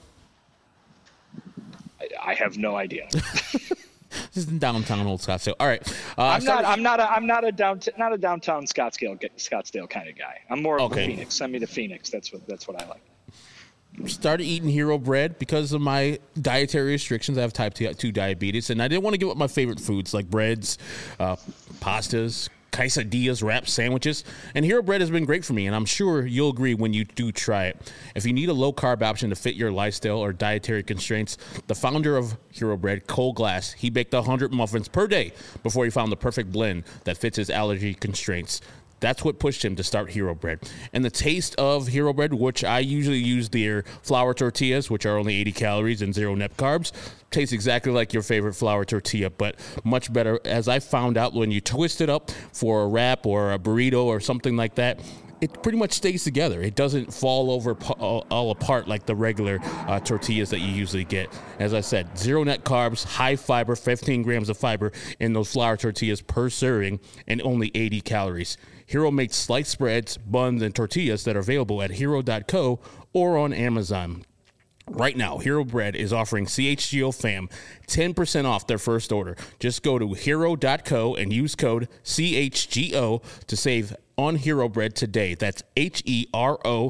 I have no idea. This is in downtown Old Scottsdale. All right, I'm not a downtown Scottsdale kind of guy. I'm more of a Phoenix. Send me to Phoenix. That's what I like. Started eating Hero Bread because of my dietary restrictions. I have type 2 diabetes, and I didn't want to give up my favorite foods like breads, pastas, quesadillas, wraps, sandwiches, and Hero Bread has been great for me, and I'm sure you'll agree when you do try it. If you need a low-carb option to fit your lifestyle or dietary constraints, the founder of Hero Bread, Cole Glass, he baked 100 muffins per day before he found the perfect blend that fits his allergy constraints. That's what pushed him to start Hero Bread. And the taste of Hero Bread, which I usually use their flour tortillas, which are only 80 calories and 0 net carbs, tastes exactly like your favorite flour tortilla, but much better. As I found out, when you twist it up for a wrap or a burrito or something like that, it pretty much stays together. It doesn't fall over all apart like the regular tortillas that you usually get. As I said, 0 net carbs, high fiber, 15 grams of fiber in those flour tortillas per serving, and only 80 calories. Hero makes sliced breads, buns, and tortillas that are available at hero.co or on Amazon. Right now, Hero Bread is offering CHGO fam 10% off their first order. Just go to hero.co and use code CHGO to save on Hero Bread today. That's HERO.co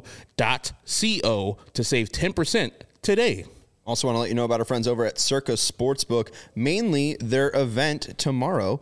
to save 10% today. Also want to let you know about our friends over at Circa Sportsbook, mainly their event tomorrow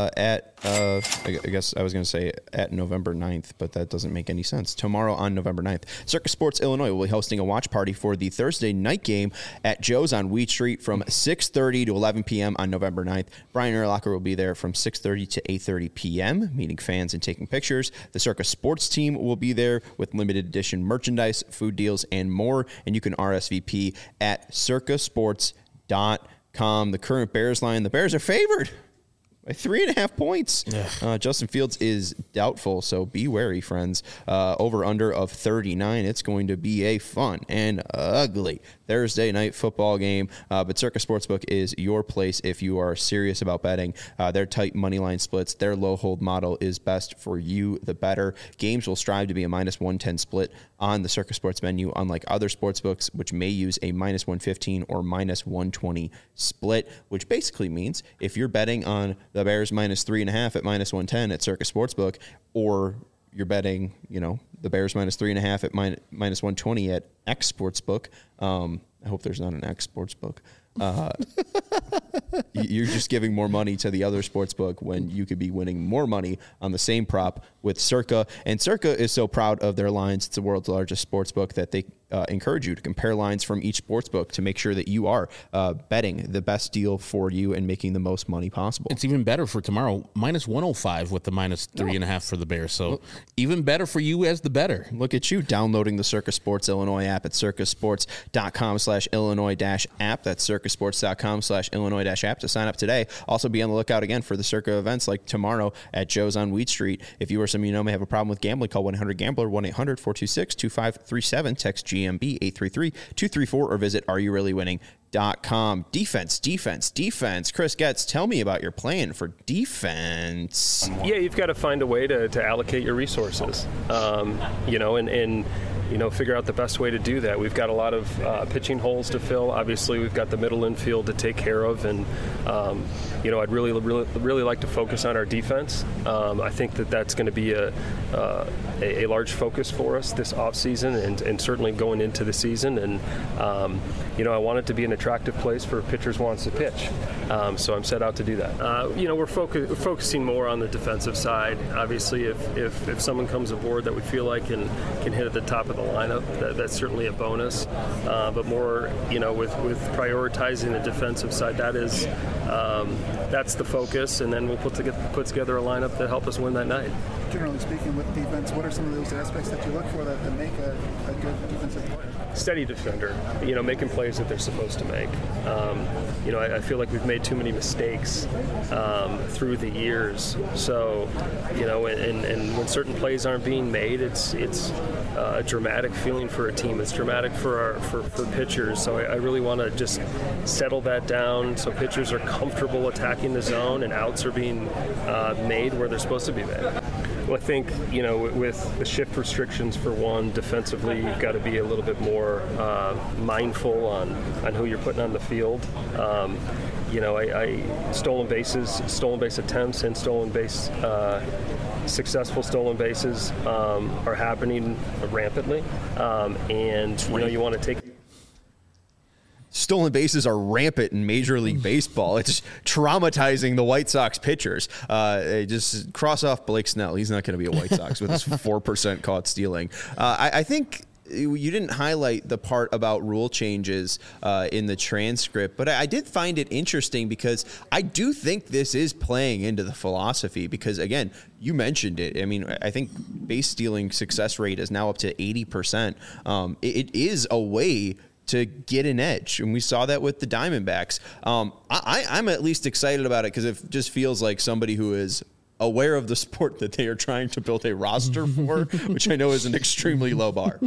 I guess I was going to say at November 9th, but that doesn't make any sense. Tomorrow on November 9th, Circa Sports Illinois will be hosting a watch party for the Thursday night game at Joe's on Wheat Street from 6:30 to 11 p.m. on November 9th. Brian Urlacher will be there from 6:30 to 8:30 p.m., meeting fans and taking pictures. The Circa Sports team will be there with limited edition merchandise, food deals, and more, and you can RSVP at circasports.com. The current Bears line, the Bears are favored by 3.5 points. Justin Fields is doubtful, so be wary, friends. Over-under of 39. It's going to be a fun and ugly Thursday night football game. But Circa Sportsbook is your place if you are serious about betting. Their tight money line splits, their low hold model is best for you, the better. Games will strive to be a minus 110 split on the Circa Sports menu, unlike other sportsbooks, which may use a minus 115 or minus 120 split, which basically means if you're betting on the Bears minus 3.5 at minus 110 at Circa Sportsbook, or you're betting, the Bears minus 3.5 at minus 120 at X Sportsbook. I hope there's not an X Sportsbook. You're just giving more money to the other sportsbook when you could be winning more money on the same prop with Circa. And Circa is so proud of their lines. It's the world's largest sportsbook that they encourage you to compare lines from each sportsbook to make sure that you are betting the best deal for you and making the most money possible. It's even better for tomorrow, minus 105 with the minus 3.5 for the Bears. So even better for you as the better. Look at you downloading the Circa Sports Illinois app at circasports.com/Illinois-app. That's circasports.com/Illinois-app to sign up today. Also be on the lookout again for the Circa events like tomorrow at Joe's on Wheat Street. If you or someone you know may have a problem with gambling, call 1-800-GAMBLER, 1-800-426-2537, text GMB 833-234, or visit areyoureallywinning.com. Defense. Chris Getz, tell me about your plan for defense. Yeah, you've got to find a way to allocate your resources, and figure out the best way to do that. We've got a lot of pitching holes to fill. Obviously, we've got the middle infield to take care of, and I'd really like to focus on our defense. I think that's going to be a large focus for us this offseason and certainly going into the season. And I want it to be an attractive place for pitchers wants to pitch. So I'm set out to do that. We're focusing more on the defensive side. Obviously, if someone comes aboard that we feel like can hit at the top of the lineup. That's certainly a bonus. But more, with prioritizing the defensive side, that's the focus. And then we'll put together a lineup that help us win that night. Generally speaking, with defense, what are some of those aspects that you look for that make a good defensive player? Steady defender, making plays that they're supposed to make. I feel like we've made too many mistakes through the years. So, and when certain plays aren't being made, it's a dramatic feeling for a team. It's dramatic for pitchers. So I really want to just settle that down so pitchers are comfortable attacking the zone and outs are being made where they're supposed to be made. Well, I think, with the shift restrictions for one, defensively, you've got to be a little bit more mindful on who you're putting on the field. Stolen base attempts and successful stolen bases are happening rampantly. You want to take... Stolen bases are rampant in Major League Baseball. It's traumatizing the White Sox pitchers. Just cross off Blake Snell. He's not going to be a White Sox with his 4% caught stealing. I think you didn't highlight the part about rule changes in the transcript, but I did find it interesting because I do think this is playing into the philosophy because, again, you mentioned it. I mean, I think base stealing success rate is now up to 80%. It is a way to get an edge. And we saw that with the Diamondbacks. I'm at least excited about it because it just feels like somebody who is aware of the sport that they are trying to build a roster for, which I know is an extremely low bar.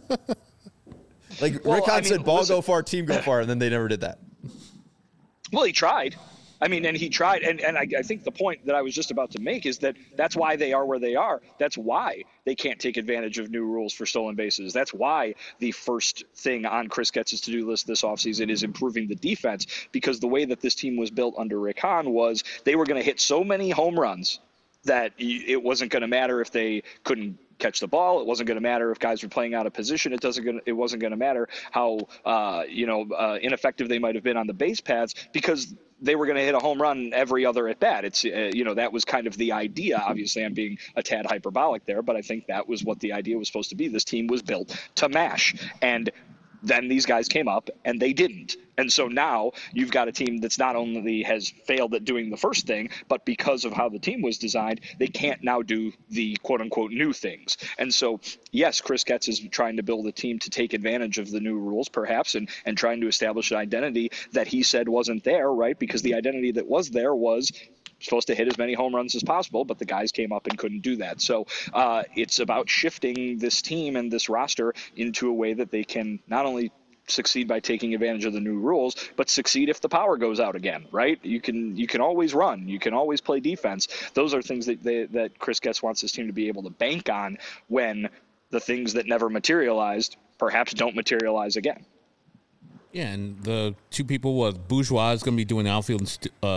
Rick Hahn said, ball go far, team go far, and then they never did that. Well, he tried. And he tried. And I think the point that I was just about to make is that that's why they are where they are. That's why they can't take advantage of new rules for stolen bases. That's why the first thing on Chris Getz's to-do list this offseason is improving the defense, because the way that this team was built under Rick Hahn was they were going to hit so many home runs that it wasn't going to matter if they couldn't catch the ball. It wasn't going to matter if guys were playing out of position. It wasn't going to matter how ineffective they might have been on the base paths, because they were going to hit a home run every other at bat. It's that was kind of the idea. Obviously, I'm being a tad hyperbolic there, but I think that was what the idea was supposed to be. This team was built to mash, and then these guys came up and they didn't. And so now you've got a team that's not only has failed at doing the first thing, but because of how the team was designed, they can't now do the quote unquote new things. And so, yes, Chris Getz is trying to build a team to take advantage of the new rules, perhaps, and trying to establish an identity that he said wasn't there, right? Because the identity that was there was supposed to hit as many home runs as possible, but the guys came up and couldn't do that. So it's about shifting this team and this roster into a way that they can not only succeed by taking advantage of the new rules, but succeed if the power goes out again, right? You can always run. You can always play defense. Those are things that Chris Getz wants his team to be able to bank on when the things that never materialized perhaps don't materialize again. Yeah, and the two people was Bourgeois is going to be doing outfield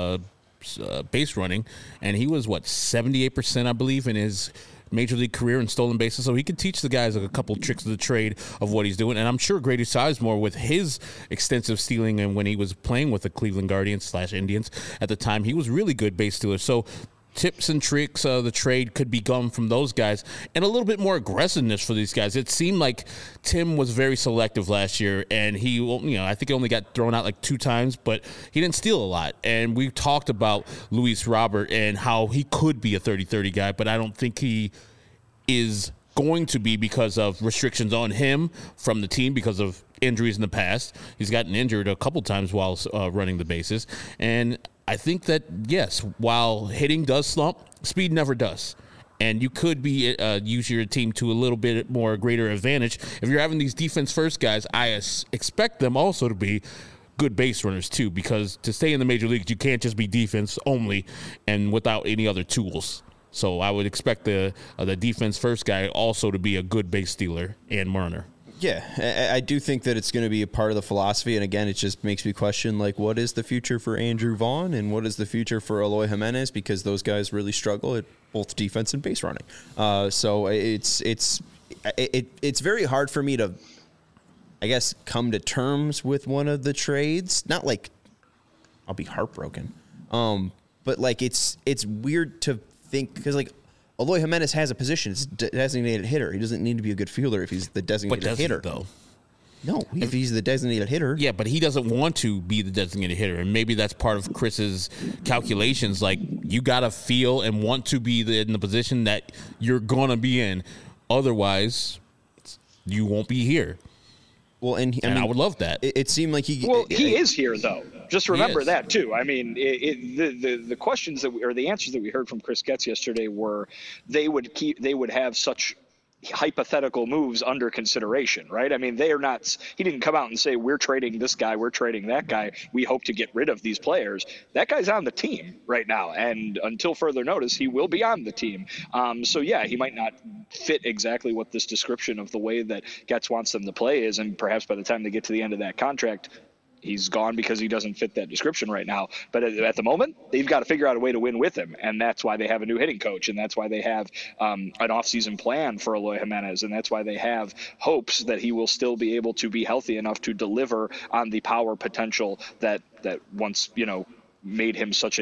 base running, and he was 78%, I believe, in his major league career in stolen bases, so he could teach the guys a couple tricks of the trade of what he's doing. And I'm sure Grady Sizemore, with his extensive stealing, and when he was playing with the Cleveland Guardians / Indians at the time, he was really good base stealer. So tips and tricks of the trade could be gone from those guys, and a little bit more aggressiveness for these guys. It seemed like Tim was very selective last year, and he, I think he only got thrown out 2 times, but he didn't steal a lot. And we talked about Luis Robert and how he could be a 30-30 guy, but I don't think he is going to be because of restrictions on him from the team because of injuries in the past. He's gotten injured a couple times while running the bases, and I think that, yes, while hitting does slump, speed never does. And you could be use your team to a little bit more greater advantage. If you're having these defense-first guys, I expect them also to be good base runners too, because to stay in the major leagues, you can't just be defense only and without any other tools. So I would expect the defense-first guy also to be a good base stealer and runner. Yeah, I do think that it's going to be a part of the philosophy. And again, it just makes me question, what is the future for Andrew Vaughn and what is the future for Eloy Jimenez? Because those guys really struggle at both defense and base running. So it's very hard for me to, I guess, come to terms with one of the trades. Not I'll be heartbroken. But it's weird to think, because Eloy Jimenez has a position. It's designated hitter. He doesn't need to be a good fielder if he's the designated hitter. Though? No, if he's the designated hitter. Yeah, but he doesn't want to be the designated hitter, and maybe that's part of Chris's calculations. Like, you got to feel and want to be in the position that you're going to be in. Otherwise, you won't be here. Well, and I would love that. It seemed like he is here, though. Just remember that too. I mean, the questions or the answers that we heard from Chris Getz yesterday were they would have such hypothetical moves under consideration, right? I mean, they are not. He didn't come out and say we're trading this guy, we're trading that guy. We hope to get rid of these players. That guy's on the team right now, and until further notice, he will be on the team. So yeah, he might not fit exactly what this description of the way that Getz wants them to play is, and perhaps by the time they get to the end of that contract, he's gone because he doesn't fit that description right now. But at the moment, they've got to figure out a way to win with him. And that's why they have a new hitting coach. And that's why they have an offseason plan for Eloy Jimenez. And that's why they have hopes that he will still be able to be healthy enough to deliver on the power potential that once, made him such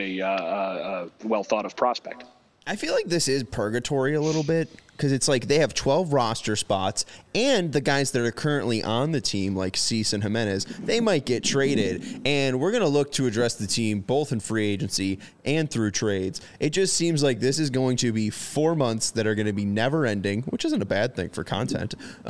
a well thought of prospect. I feel like this is purgatory a little bit because it's like they have 12 roster spots and the guys that are currently on the team like Cease and Jimenez, they might get traded, and we're going to look to address the team both in free agency and through trades. It just seems like this is going to be 4 months that are going to be never ending, which isn't a bad thing for content.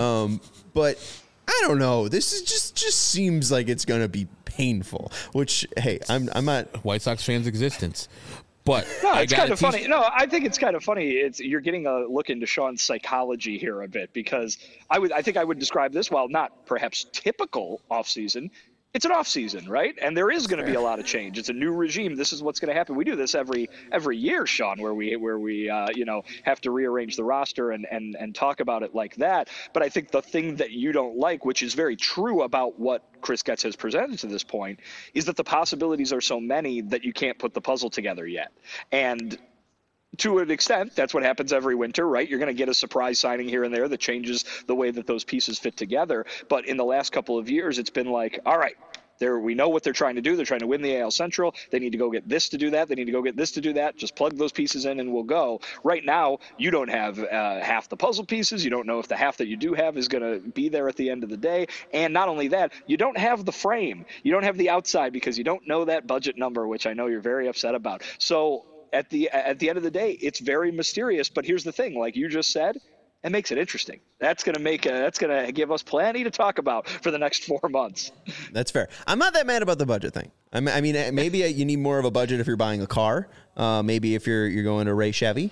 But I don't know. This is just seems like it's going to be painful, which, hey, I'm not White Sox fans' existence. But no, it's kind of funny. No, I think it's kind of funny. You're getting a look into Sean's psychology here a bit, because I think I would describe this, while not perhaps typical offseason, it's an offseason, right? And there is going to be a lot of change. It's a new regime. This is what's going to happen. We do this every year, Sean, where we have to rearrange the roster and talk about it like that. But I think the thing that you don't like, which is very true about what Chris Getz has presented to this point, is that the possibilities are so many that you can't put the puzzle together yet. And to an extent, that's what happens every winter, right? You're going to get a surprise signing here and there that changes the way that those pieces fit together. But in the last couple of years, it's been like, all right, we know what they're trying to do. They're trying to win the AL Central. They need to go get this to do that. They need to go get this to do that. Just plug those pieces in and we'll go. Right now, you don't have half the puzzle pieces. You don't know if the half that you do have is going to be there at the end of the day. And not only that, you don't have the frame. You don't have the outside because you don't know that budget number, which I know you're very upset about. So at the end of the day, it's very mysterious. But here's the thing, like you just said, it makes it interesting. That's going to give us plenty to talk about for the next 4 months. That's fair. I'm not that mad about the budget thing. I mean, maybe you need more of a budget if you're buying a car. Maybe if you're going to Ray Chevy.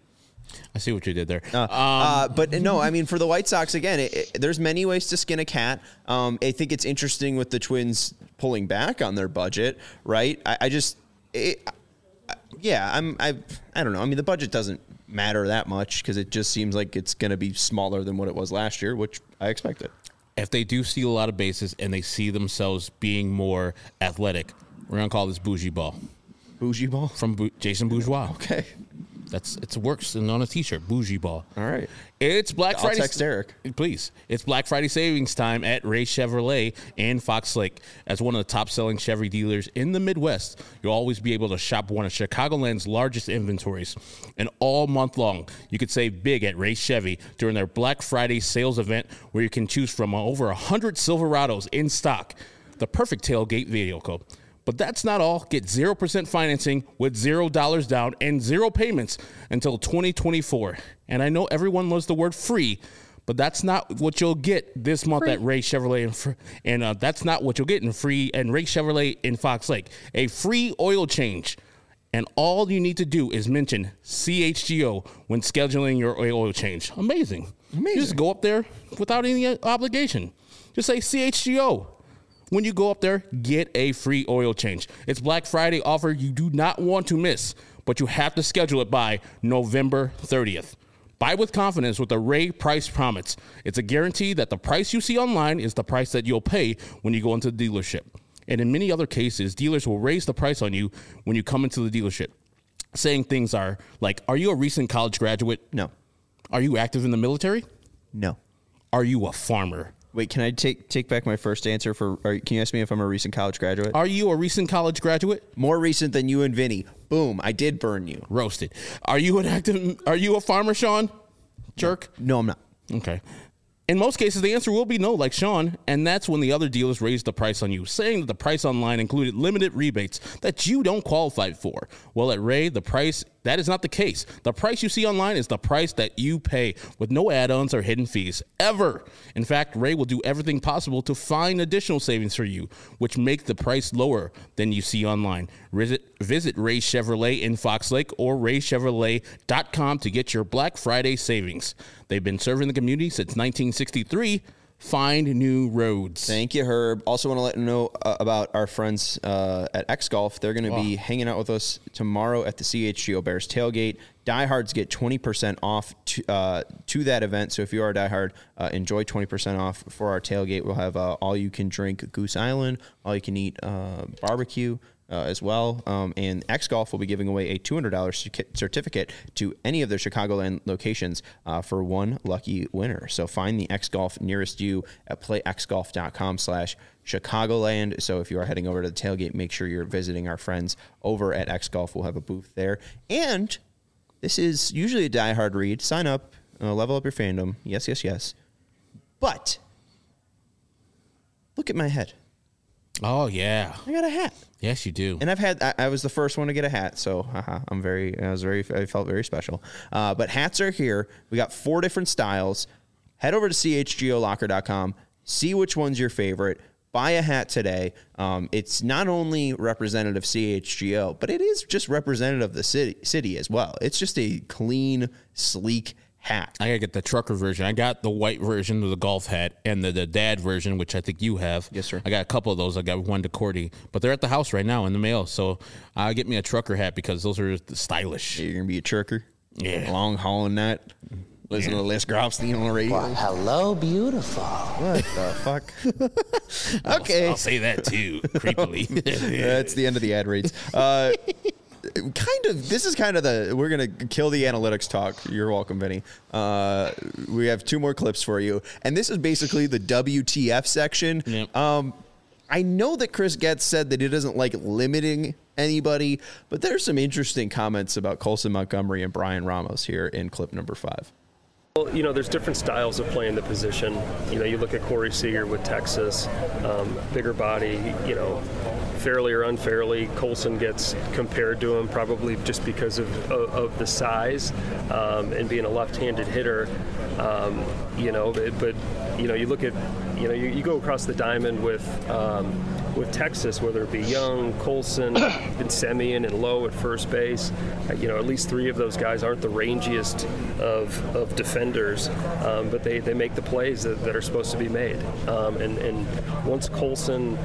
I see what you did there. But no, I mean, for the White Sox, again, there's many ways to skin a cat. I think it's interesting with the Twins pulling back on their budget, right? I don't know. I mean, the budget doesn't matter that much because it just seems like it's going to be smaller than what it was last year, which I expected. If they do steal a lot of bases and they see themselves being more athletic, we're going to call this bougie ball. Bougie ball? From Jason Bourgeois. Okay. It works on a t-shirt, bougie ball. All right. It's Black Friday. I'll text Eric. Please. It's Black Friday savings time at Ray Chevrolet and Fox Lake. As one of the top-selling Chevy dealers in the Midwest, you'll always be able to shop one of Chicagoland's largest inventories. And all month long, you could save big at Ray Chevy during their Black Friday sales event, where you can choose from over 100 Silverados in stock. The perfect tailgate vehicle. But that's not all. Get 0% financing with $0 down and 0 payments until 2024. And I know everyone loves the word free, but that's not what you'll get this month at Ray Chevrolet. And that's not what you'll get in Ray Chevrolet in Fox Lake. A free oil change. And all you need to do is mention CHGO when scheduling your oil change. Amazing. You just go up there without any obligation. Just say CHGO. When you go up there, get a free oil change. It's Black Friday offer you do not want to miss, but you have to schedule it by November 30th. Buy with confidence with the Ray Price Promise. It's a guarantee that the price you see online is the price that you'll pay when you go into the dealership. And in many other cases, dealers will raise the price on you when you come into the dealership. Saying things are like, are you a recent college graduate? No. Are you active in the military? No. Are you a farmer? Wait, can I take back my first answer can you ask me if I'm a recent college graduate? Are you a recent college graduate? More recent than you and Vinny. Boom, I did burn you. Roasted. Are you a farmer, Sean? Jerk? No, I'm not. Okay. In most cases, the answer will be no, like Sean, and that's when the other dealers raise the price on you, saying that the price online included limited rebates that you don't qualify for. Well, at Ray, that is not the case. The price you see online is the price that you pay with no add-ons or hidden fees, ever. In fact, Ray will do everything possible to find additional savings for you, which make the price lower than you see online. Visit Ray Chevrolet in Fox Lake or raychevrolet.com to get your Black Friday savings. They've been serving the community since 1963. Find new roads. Thank you, Herb. Also want to let you know about our friends at X Golf. They're going to be hanging out with us tomorrow at the CHGO Bears tailgate. Diehards get 20% off to that event. So if you are a diehard, enjoy 20% off for our tailgate. We'll have all-you-can-drink Goose Island, all-you-can-eat barbecue. As well. And X Golf will be giving away a $200 certificate to any of their Chicagoland locations for one lucky winner. So find the X Golf nearest you at playxgolf.com/Chicagoland. So if you are heading over to the tailgate, make sure you're visiting our friends over at X Golf. We'll have a booth there. And this is usually a diehard read. Sign up, level up your fandom. Yes, yes, yes. But look at my head. Oh, yeah. I got a hat. Yes, you do. And I was the first one to get a hat, so I felt very special. But hats are here. We got 4 different styles. Head over to chgolocker.com. See which one's your favorite. Buy a hat today. It's not only representative CHGO, but it is just representative of the city as well. It's just a clean, sleek hat. I gotta get the trucker version. I got the white version of the golf hat and the dad version, which I think you have. Yes, sir. I got a couple of those. I got one to Cordy, but they're at the house right now in the mail. So I'll get me a trucker hat because those are stylish. You're gonna be a trucker. Yeah, long hauling that. Listen to Les Grobstein on the radio. Well, hello, beautiful. What the fuck? Okay. I'll say that too, creepily. That's the end of the ad reads. This is kind of we're going to kill the analytics talk. You're welcome, Vinny. We have 2 more clips for you. And this is basically the WTF section. Yep. I know that Chris Getz said that he doesn't like limiting anybody, but there's some interesting comments about Colson Montgomery and Brian Ramos here in clip number 5. Well, there's different styles of playing the position. You look at Corey Seager with Texas, bigger body, fairly or unfairly, Colson gets compared to him probably just because of the size and being a left-handed hitter. But you look at, you go across the diamond with Texas, whether it be Young, Colson, and Semien and Lowe at first base. At least 3 of those guys aren't the rangiest of defenders, but they make the plays that are supposed to be made. And once Colson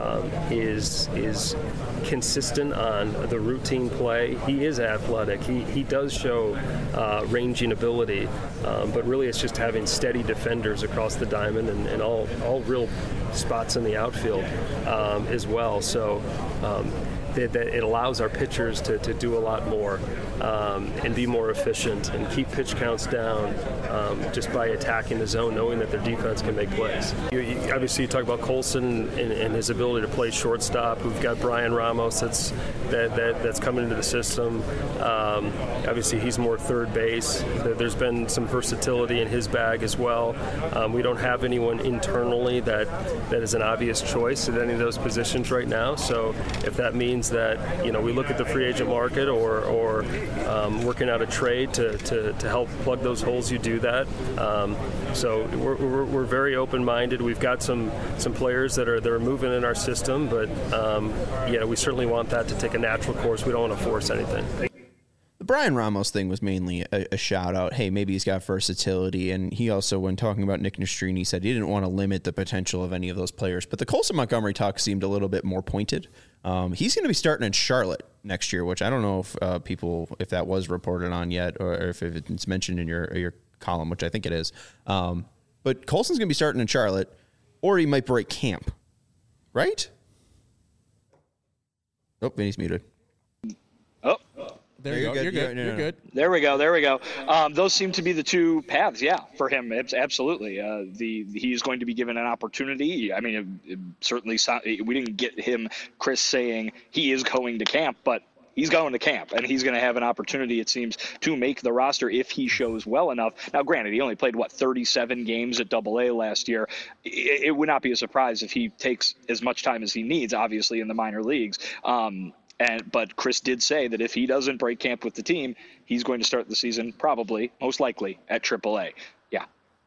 is consistent on the routine play, he is athletic. He does show ranging ability, but really it's just having steady defenders across the diamond and all real spots in the outfield as well. So that it allows our pitchers to do a lot more and be more efficient and keep pitch counts down just by attacking the zone, knowing that their defense can make plays. Obviously, you talk about Colson and his ability to play shortstop. We've got Brian Ramos that's coming into the system. Obviously, he's more third base. There's been some versatility in his bag as well. We don't have anyone internally that is an obvious choice at any of those positions right now. So if that means that we look at the free agent market or working out a trade to help plug those holes, you do that. So we're very open-minded. We've got some players that are moving in our system, but we certainly want that to take a natural course. We don't want to force anything. The Brian Ramos thing was mainly a shout out. Hey, maybe he's got versatility. And he also, when talking about Nick Nastrini, said he didn't want to limit the potential of any of those players. But the Colson Montgomery talk seemed a little bit more pointed. He's going to be starting in Charlotte next year, which I don't know if that was reported on yet or if it's mentioned in your column, which I think it is. But Colson's going to be starting in Charlotte, or he might break camp, right? Oh, Vinny's muted. Oh. There you go. You're good. You're good. There we go. Those seem to be the two paths, for him. Absolutely. He's going to be given an opportunity. I mean, it certainly we didn't get Chris saying he is going to camp, but he's going to camp, and he's going to have an opportunity, it seems, to make the roster if he shows well enough. Now, granted, he only played, 37 games at AA last year. It would not be a surprise if he takes as much time as he needs, obviously, in the minor leagues. But Chris did say that if he doesn't break camp with the team, he's going to start the season probably, most likely, at AAA. Yeah.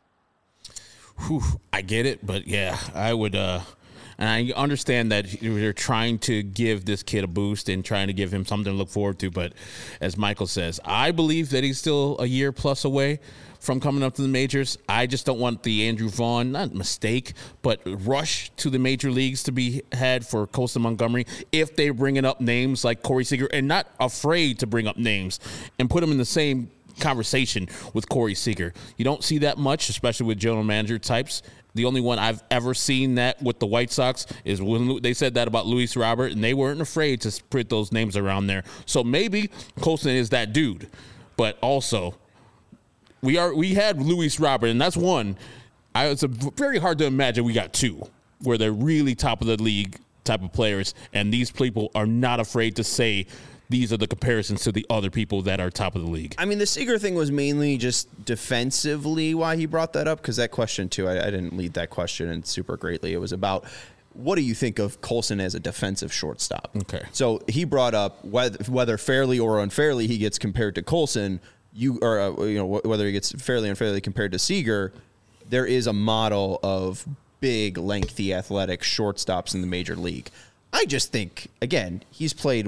Whew, I get it, but I would and I understand that they're trying to give this kid a boost and trying to give him something to look forward to. But as Michael says, I believe that he's still a year plus away from coming up to the majors. I just don't want the Andrew Vaughn, not mistake, but rush to the major leagues to be had for Colson Montgomery if they're bringing up names like Corey Seager, and not afraid to bring up names and put them in the same conversation with Corey Seager. You don't see that much, especially with general manager types. The only one I've ever seen that with the White Sox is when they said that about Luis Robert, and they weren't afraid to put those names around there. So maybe Colson is that dude. But also, we had Luis Robert, and that's one. It's very hard to imagine we got two where they're really top of the league type of players, and these people are not afraid to say these are the comparisons to the other people that are top of the league. I mean, the Seager thing was mainly just defensively why he brought that up, because that question, too, I didn't lead that question in super greatly. It was about, what do you think of Colson as a defensive shortstop? Okay. So he brought up whether fairly or unfairly he gets compared to Colson, whether he gets fairly or unfairly compared to Seager, there is a model of big, lengthy, athletic shortstops in the major league. I just think, again, he's played,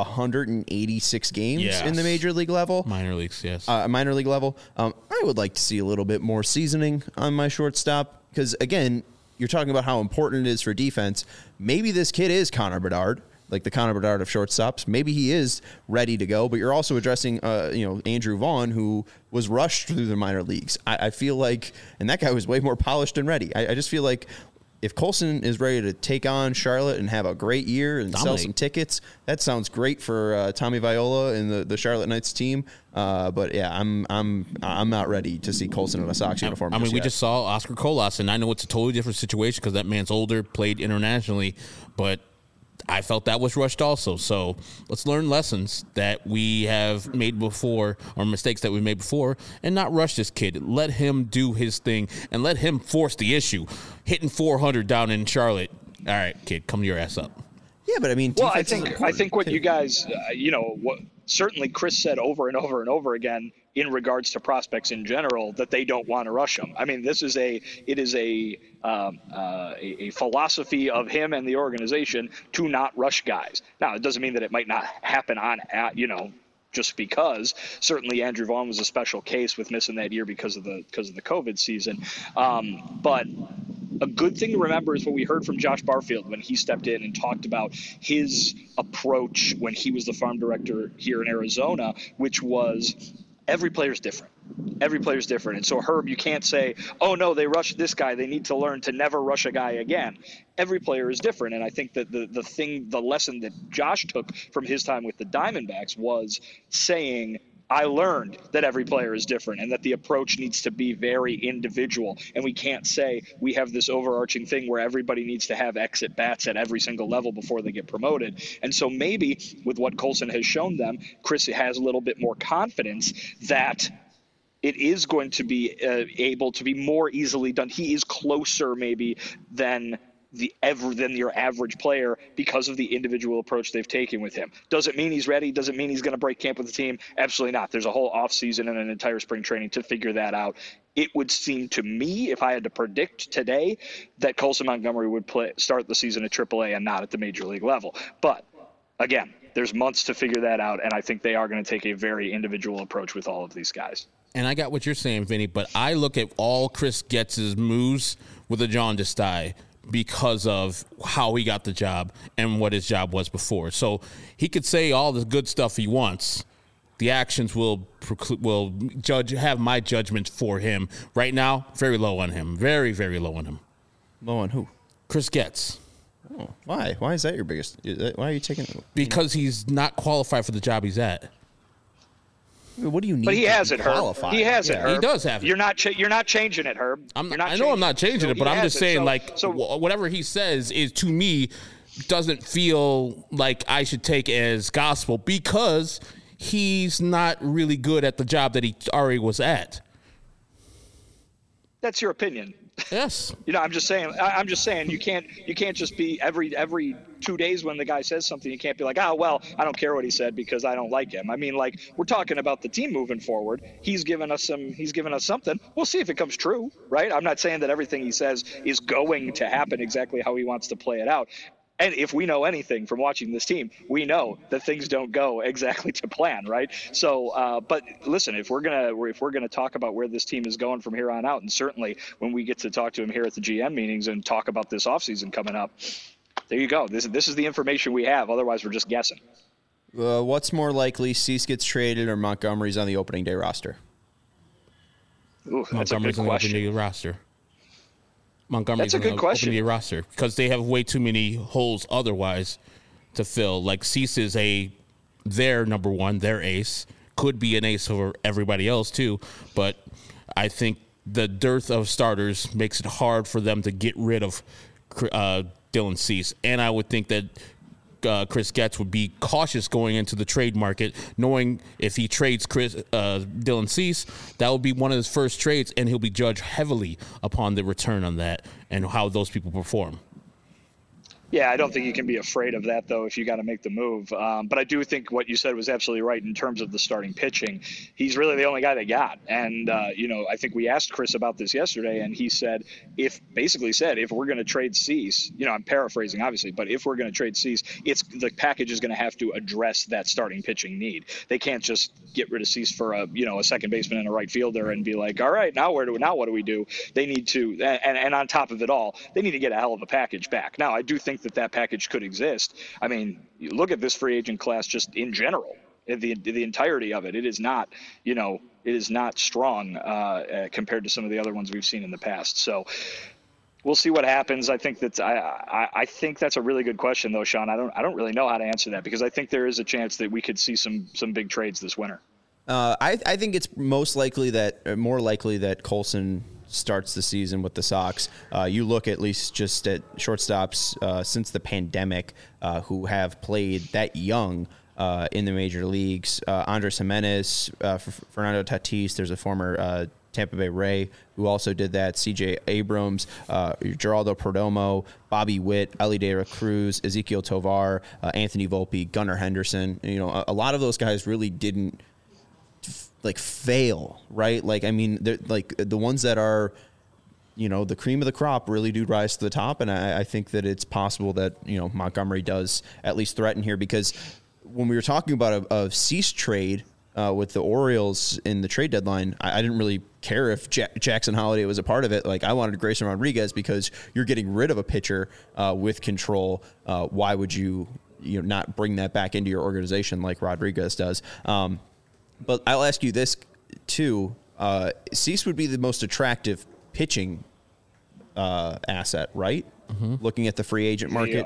186 games in the major league level? Minor leagues, yes. Minor league level. I would like to see a little bit more seasoning on my shortstop because, again, you're talking about how important it is for defense. Maybe this kid is Connor Bedard, like the Connor Bedard of shortstops. Maybe he is ready to go, but you're also addressing, Andrew Vaughn, who was rushed through the minor leagues. I feel like, and that guy was way more polished and ready. I just feel like if Colson is ready to take on Charlotte and have a great year and sell some tickets, that sounds great for Tommy Viola and the Charlotte Knights team. But yeah, I'm not ready to see Colson in a Sox uniform. We just saw Oscar Colas, and I know it's a totally different situation because that man's older, played internationally, but I felt that was rushed also. So let's learn lessons that we have made before, or mistakes that we made before, and not rush this kid. Let him do his thing and let him force the issue. Hitting 400 down in Charlotte. All right, kid, come your ass up. Yeah, but I mean, well, I think what you guys, what certainly Chris said over and over and over again in regards to prospects in general, that they don't want to rush them. I mean, it is a philosophy of him and the organization to not rush guys. Now, it doesn't mean that it might not happen just because. Certainly Andrew Vaughn was a special case with missing that year because of the COVID season. But a good thing to remember is what we heard from Josh Barfield when he stepped in and talked about his approach when he was the farm director here in Arizona, which was every player's different. Every player's different. And so, Herb, you can't say, oh, no, they rushed this guy. They need to learn to never rush a guy again. Every player is different. And I think that the lesson that Josh took from his time with the Diamondbacks was saying, I learned that every player is different and that the approach needs to be very individual. And we can't say we have this overarching thing where everybody needs to have exit bats at every single level before they get promoted. And so maybe with what Colson has shown them, Chris has a little bit more confidence that it is going to be able to be more easily done. He is closer maybe than your average player because of the individual approach they've taken with him. Does it mean he's ready? Does it mean he's going to break camp with the team? Absolutely not. There's a whole offseason and an entire spring training to figure that out. It would seem to me, if I had to predict today, that Colson Montgomery would start the season at AAA and not at the major league level. But again, there's months to figure that out, and I think they are going to take a very individual approach with all of these guys. And I got what you're saying, Vinny, but I look at all Chris Getz's moves with a jaundice eye because of how he got the job and what his job was before. So he could say all the good stuff he wants. The actions will have my judgment for him. Right now, very low on him. Very, very low on him. Low on who? Chris Getz. Oh, why? Why is that your biggest? Why are you taking? Because he's not qualified for the job he's at. What do you need? But he has it, Herb. qualify? He has it, Herb. He does have it. You're not changing it, Herb. I know I'm not changing it, but I'm just saying, whatever he says is, to me, doesn't feel like I should take as gospel because he's not really good at the job that he already was at. That's your opinion. Yes. I'm just saying you can't just be every 2 days when the guy says something, you can't be like, oh, well, I don't care what he said because I don't like him. I mean, like, we're talking about the team moving forward. He's given us something. We'll see if it comes true, right? I'm not saying that everything he says is going to happen exactly how he wants to play it out. And if we know anything from watching this team, we know that things don't go exactly to plan, right? So, but listen, if we're gonna talk about where this team is going from here on out, and certainly when we get to talk to him here at the GM meetings and talk about this offseason coming up, there you go. This is the information we have. Otherwise, we're just guessing. What's more likely, Cease gets traded or Montgomery's on the opening day roster? Ooh, that's a good Montgomery's on the question. opening day roster. Montgomery's That's a good question. Opening day roster because they have way too many holes otherwise to fill. Like Cease is their number one, their ace. Could be an ace for everybody else too, but I think the dearth of starters makes it hard for them to get rid of Dylan Cease. And I would think that Chris Getz would be cautious going into the trade market, knowing if he trades Dylan Cease, that will be one of his first trades, and he'll be judged heavily upon the return on that and how those people perform. Yeah, I don't think you can be afraid of that, though, if you got to make the move. But I do think what you said was absolutely right in terms of the starting pitching. He's really the only guy they got. And, I think we asked Chris about this yesterday, and he said, if we're going to trade Cease, I'm paraphrasing, obviously, but if we're going to trade Cease, the package is going to have to address that starting pitching need. They can't just get rid of Cease for a second baseman and a right fielder and be like, all right, now what do we do? They need to, and on top of it all, they need to get a hell of a package back. Now, I do think that package could exist. I mean, you look at this free agent class just in general, the entirety of it. It is not, strong compared to some of the other ones we've seen in the past. So we'll see what happens. I think that's I think that's a really good question, though, Sean. I don't really know how to answer that because I think there is a chance that we could see some big trades this winter. I think it's more likely that Colson starts the season with the Sox. You look at least just at shortstops since the pandemic who have played that young in the major leagues. Andres Jimenez, Fernando Tatis, there's a former Tampa Bay Ray who also did that, C.J. Abrams, Geraldo Perdomo, Bobby Witt, Elly De La Cruz, Ezequiel Tovar, Anthony Volpe, Gunnar Henderson. A lot of those guys really didn't fail, right? Like, I mean, like the ones that are, the cream of the crop really do rise to the top. And I think that it's possible that, Montgomery does at least threaten here, because when we were talking about a Cease trade with the Orioles in the trade deadline, I didn't really care if Jackson Holliday was a part of it. Like, I wanted Grayson Rodriguez because you're getting rid of a pitcher with control. Why would you not bring that back into your organization like Rodriguez does? But I'll ask you this, too. Cease would be the most attractive pitching asset, right? Mm-hmm. Looking at the free agent market.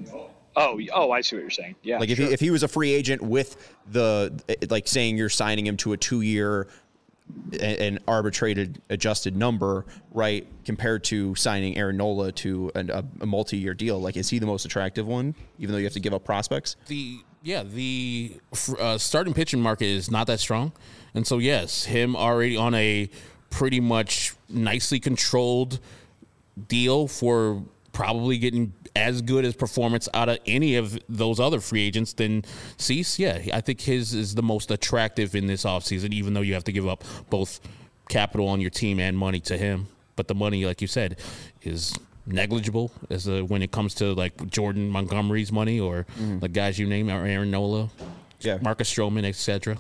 I see what you're saying. Yeah. Like, if he was a free agent with saying you're signing him to a 2-year an arbitrated adjusted number, right, compared to signing Aaron Nola to a multi-year deal, like, is he the most attractive one, even though you have to give up prospects? The starting pitching market is not that strong. And so, yes, him already on a pretty much nicely controlled deal for probably getting as good as performance out of any of those other free agents than Cease. Yeah, I think his is the most attractive in this offseason, even though you have to give up both capital on your team and money to him. But the money, like you said, is negligible when it comes to like Jordan Montgomery's money or the guys you name, or Aaron Nola, Marcus Stroman, etc.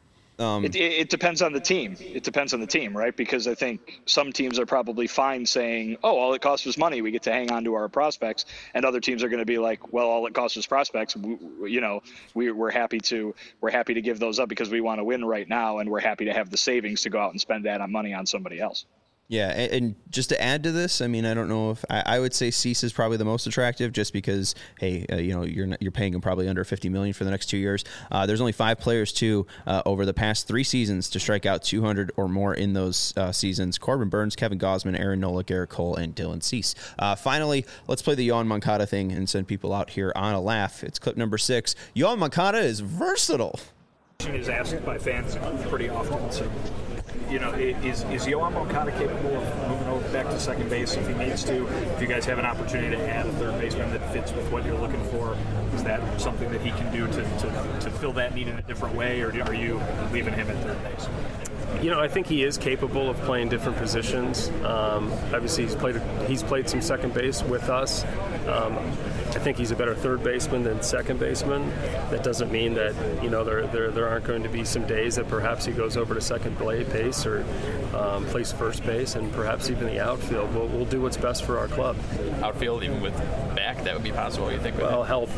It depends on the team. It depends on the team, right? Because I think some teams are probably fine saying, "Oh, all it costs was money. We get to hang on to our prospects," and other teams are going to be like, "Well, all it costs was prospects. We're happy to give those up because we want to win right now, and we're happy to have the savings to go out and spend that on money on somebody else." Yeah, and just to add to this, I mean, I don't know if I would say Cease is probably the most attractive, just because, hey, you're paying him probably under $50 million for the next 2 years. There's only 5 players too over the past 3 seasons to strike out 200 or more in those seasons: Corbin Burns, Kevin Gausman, Aaron Nola, Garrett Cole, and Dylan Cease. Finally, let's play the Yoan Moncada thing and send people out here on a laugh. It's clip number 6. Yoan Moncada is versatile. Is asked by fans pretty often. So, is Yoan Moncada capable of moving over back to second base if he needs to? If you guys have an opportunity to add a third baseman that fits with what you're looking for, is that something that he can do to fill that need in a different way, or are you leaving him at third base? I think he is capable of playing different positions. Obviously, he's played some second base with us. I think he's a better third baseman than second baseman. That doesn't mean that there aren't going to be some days that perhaps he goes over to second base or plays first base, and perhaps even the outfield. We'll do what's best for our club. Outfield, even with back, that would be possible. You think? Well, health,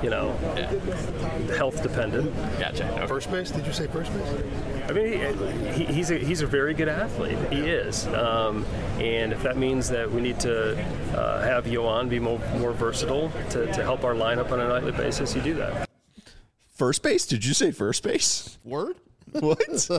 health dependent. Gotcha. Okay. First base? Did you say first base? I mean, he's a very good athlete. He is, and if that means that we need to have Yoan be more versatile to help our lineup on a nightly basis, you do that. First base? Did you say first base? Word? What?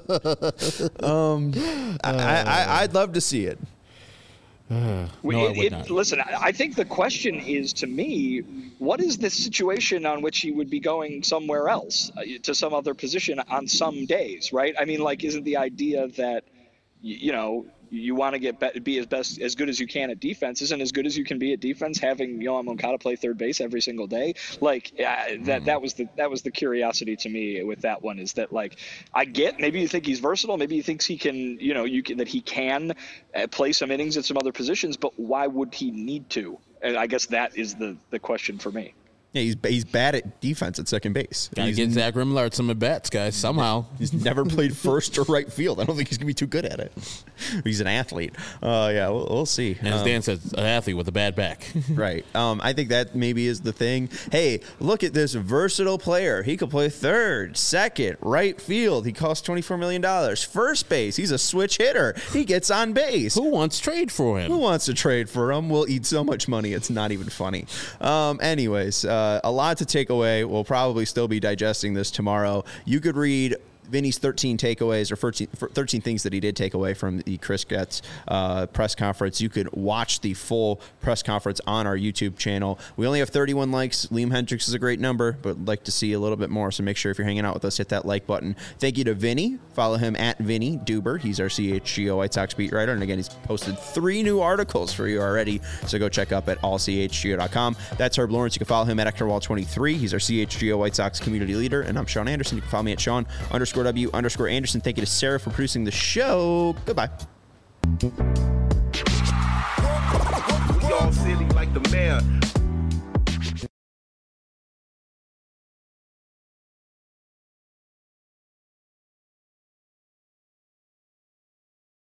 I'd love to see it. No, I would not. Listen, I think the question is, to me, what is the situation on which he would be going somewhere else, to some other position on some days, right? I mean, isn't the idea that, you want to be as good as you can at defense, isn't as good as you can be at defense having Yoan Moncada play third base every single day? That was the curiosity to me with that one, is that I get, maybe you think he's versatile, maybe you think he can, that he can play some innings at some other positions, but why would he need to? And I guess that is the question for me. Yeah, he's bad at defense at second base. Gotta get Zach Remillard some at-bats, guys, somehow. He's never played first or right field. I don't think he's going to be too good at it. He's an athlete. Yeah, we'll see. And as Dan says, an athlete with a bad back. Right. I think that maybe is the thing. Hey, look at this versatile player. He could play third, second, right field. He costs $24 million. First base, he's a switch hitter. He gets on base. Who wants to trade for him? Who wants to trade for him? We'll eat so much money, it's not even funny. Anyways, a lot to take away. We'll probably still be digesting this tomorrow. You could read Vinny's 13 takeaways, or 13 things that he did take away from the Chris Getz press conference. You could watch the full press conference on our YouTube channel. We only have 31 likes. Liam Hendricks is a great number, but I'd like to see a little bit more, so make sure if you're hanging out with us, hit that like button. Thank you to Vinny. Follow him at Vinny Duber. He's our CHGO White Sox beat writer, and again, he's posted 3 new articles for you already, so go check up at allchgo.com. That's Herb Lawrence. You can follow him at Ector23. He's our CHGO White Sox community leader, and I'm Sean Anderson. You can follow me at Sean_W_Anderson. Thank you to Sarah for producing the show. Goodbye. We all silly like the mayor.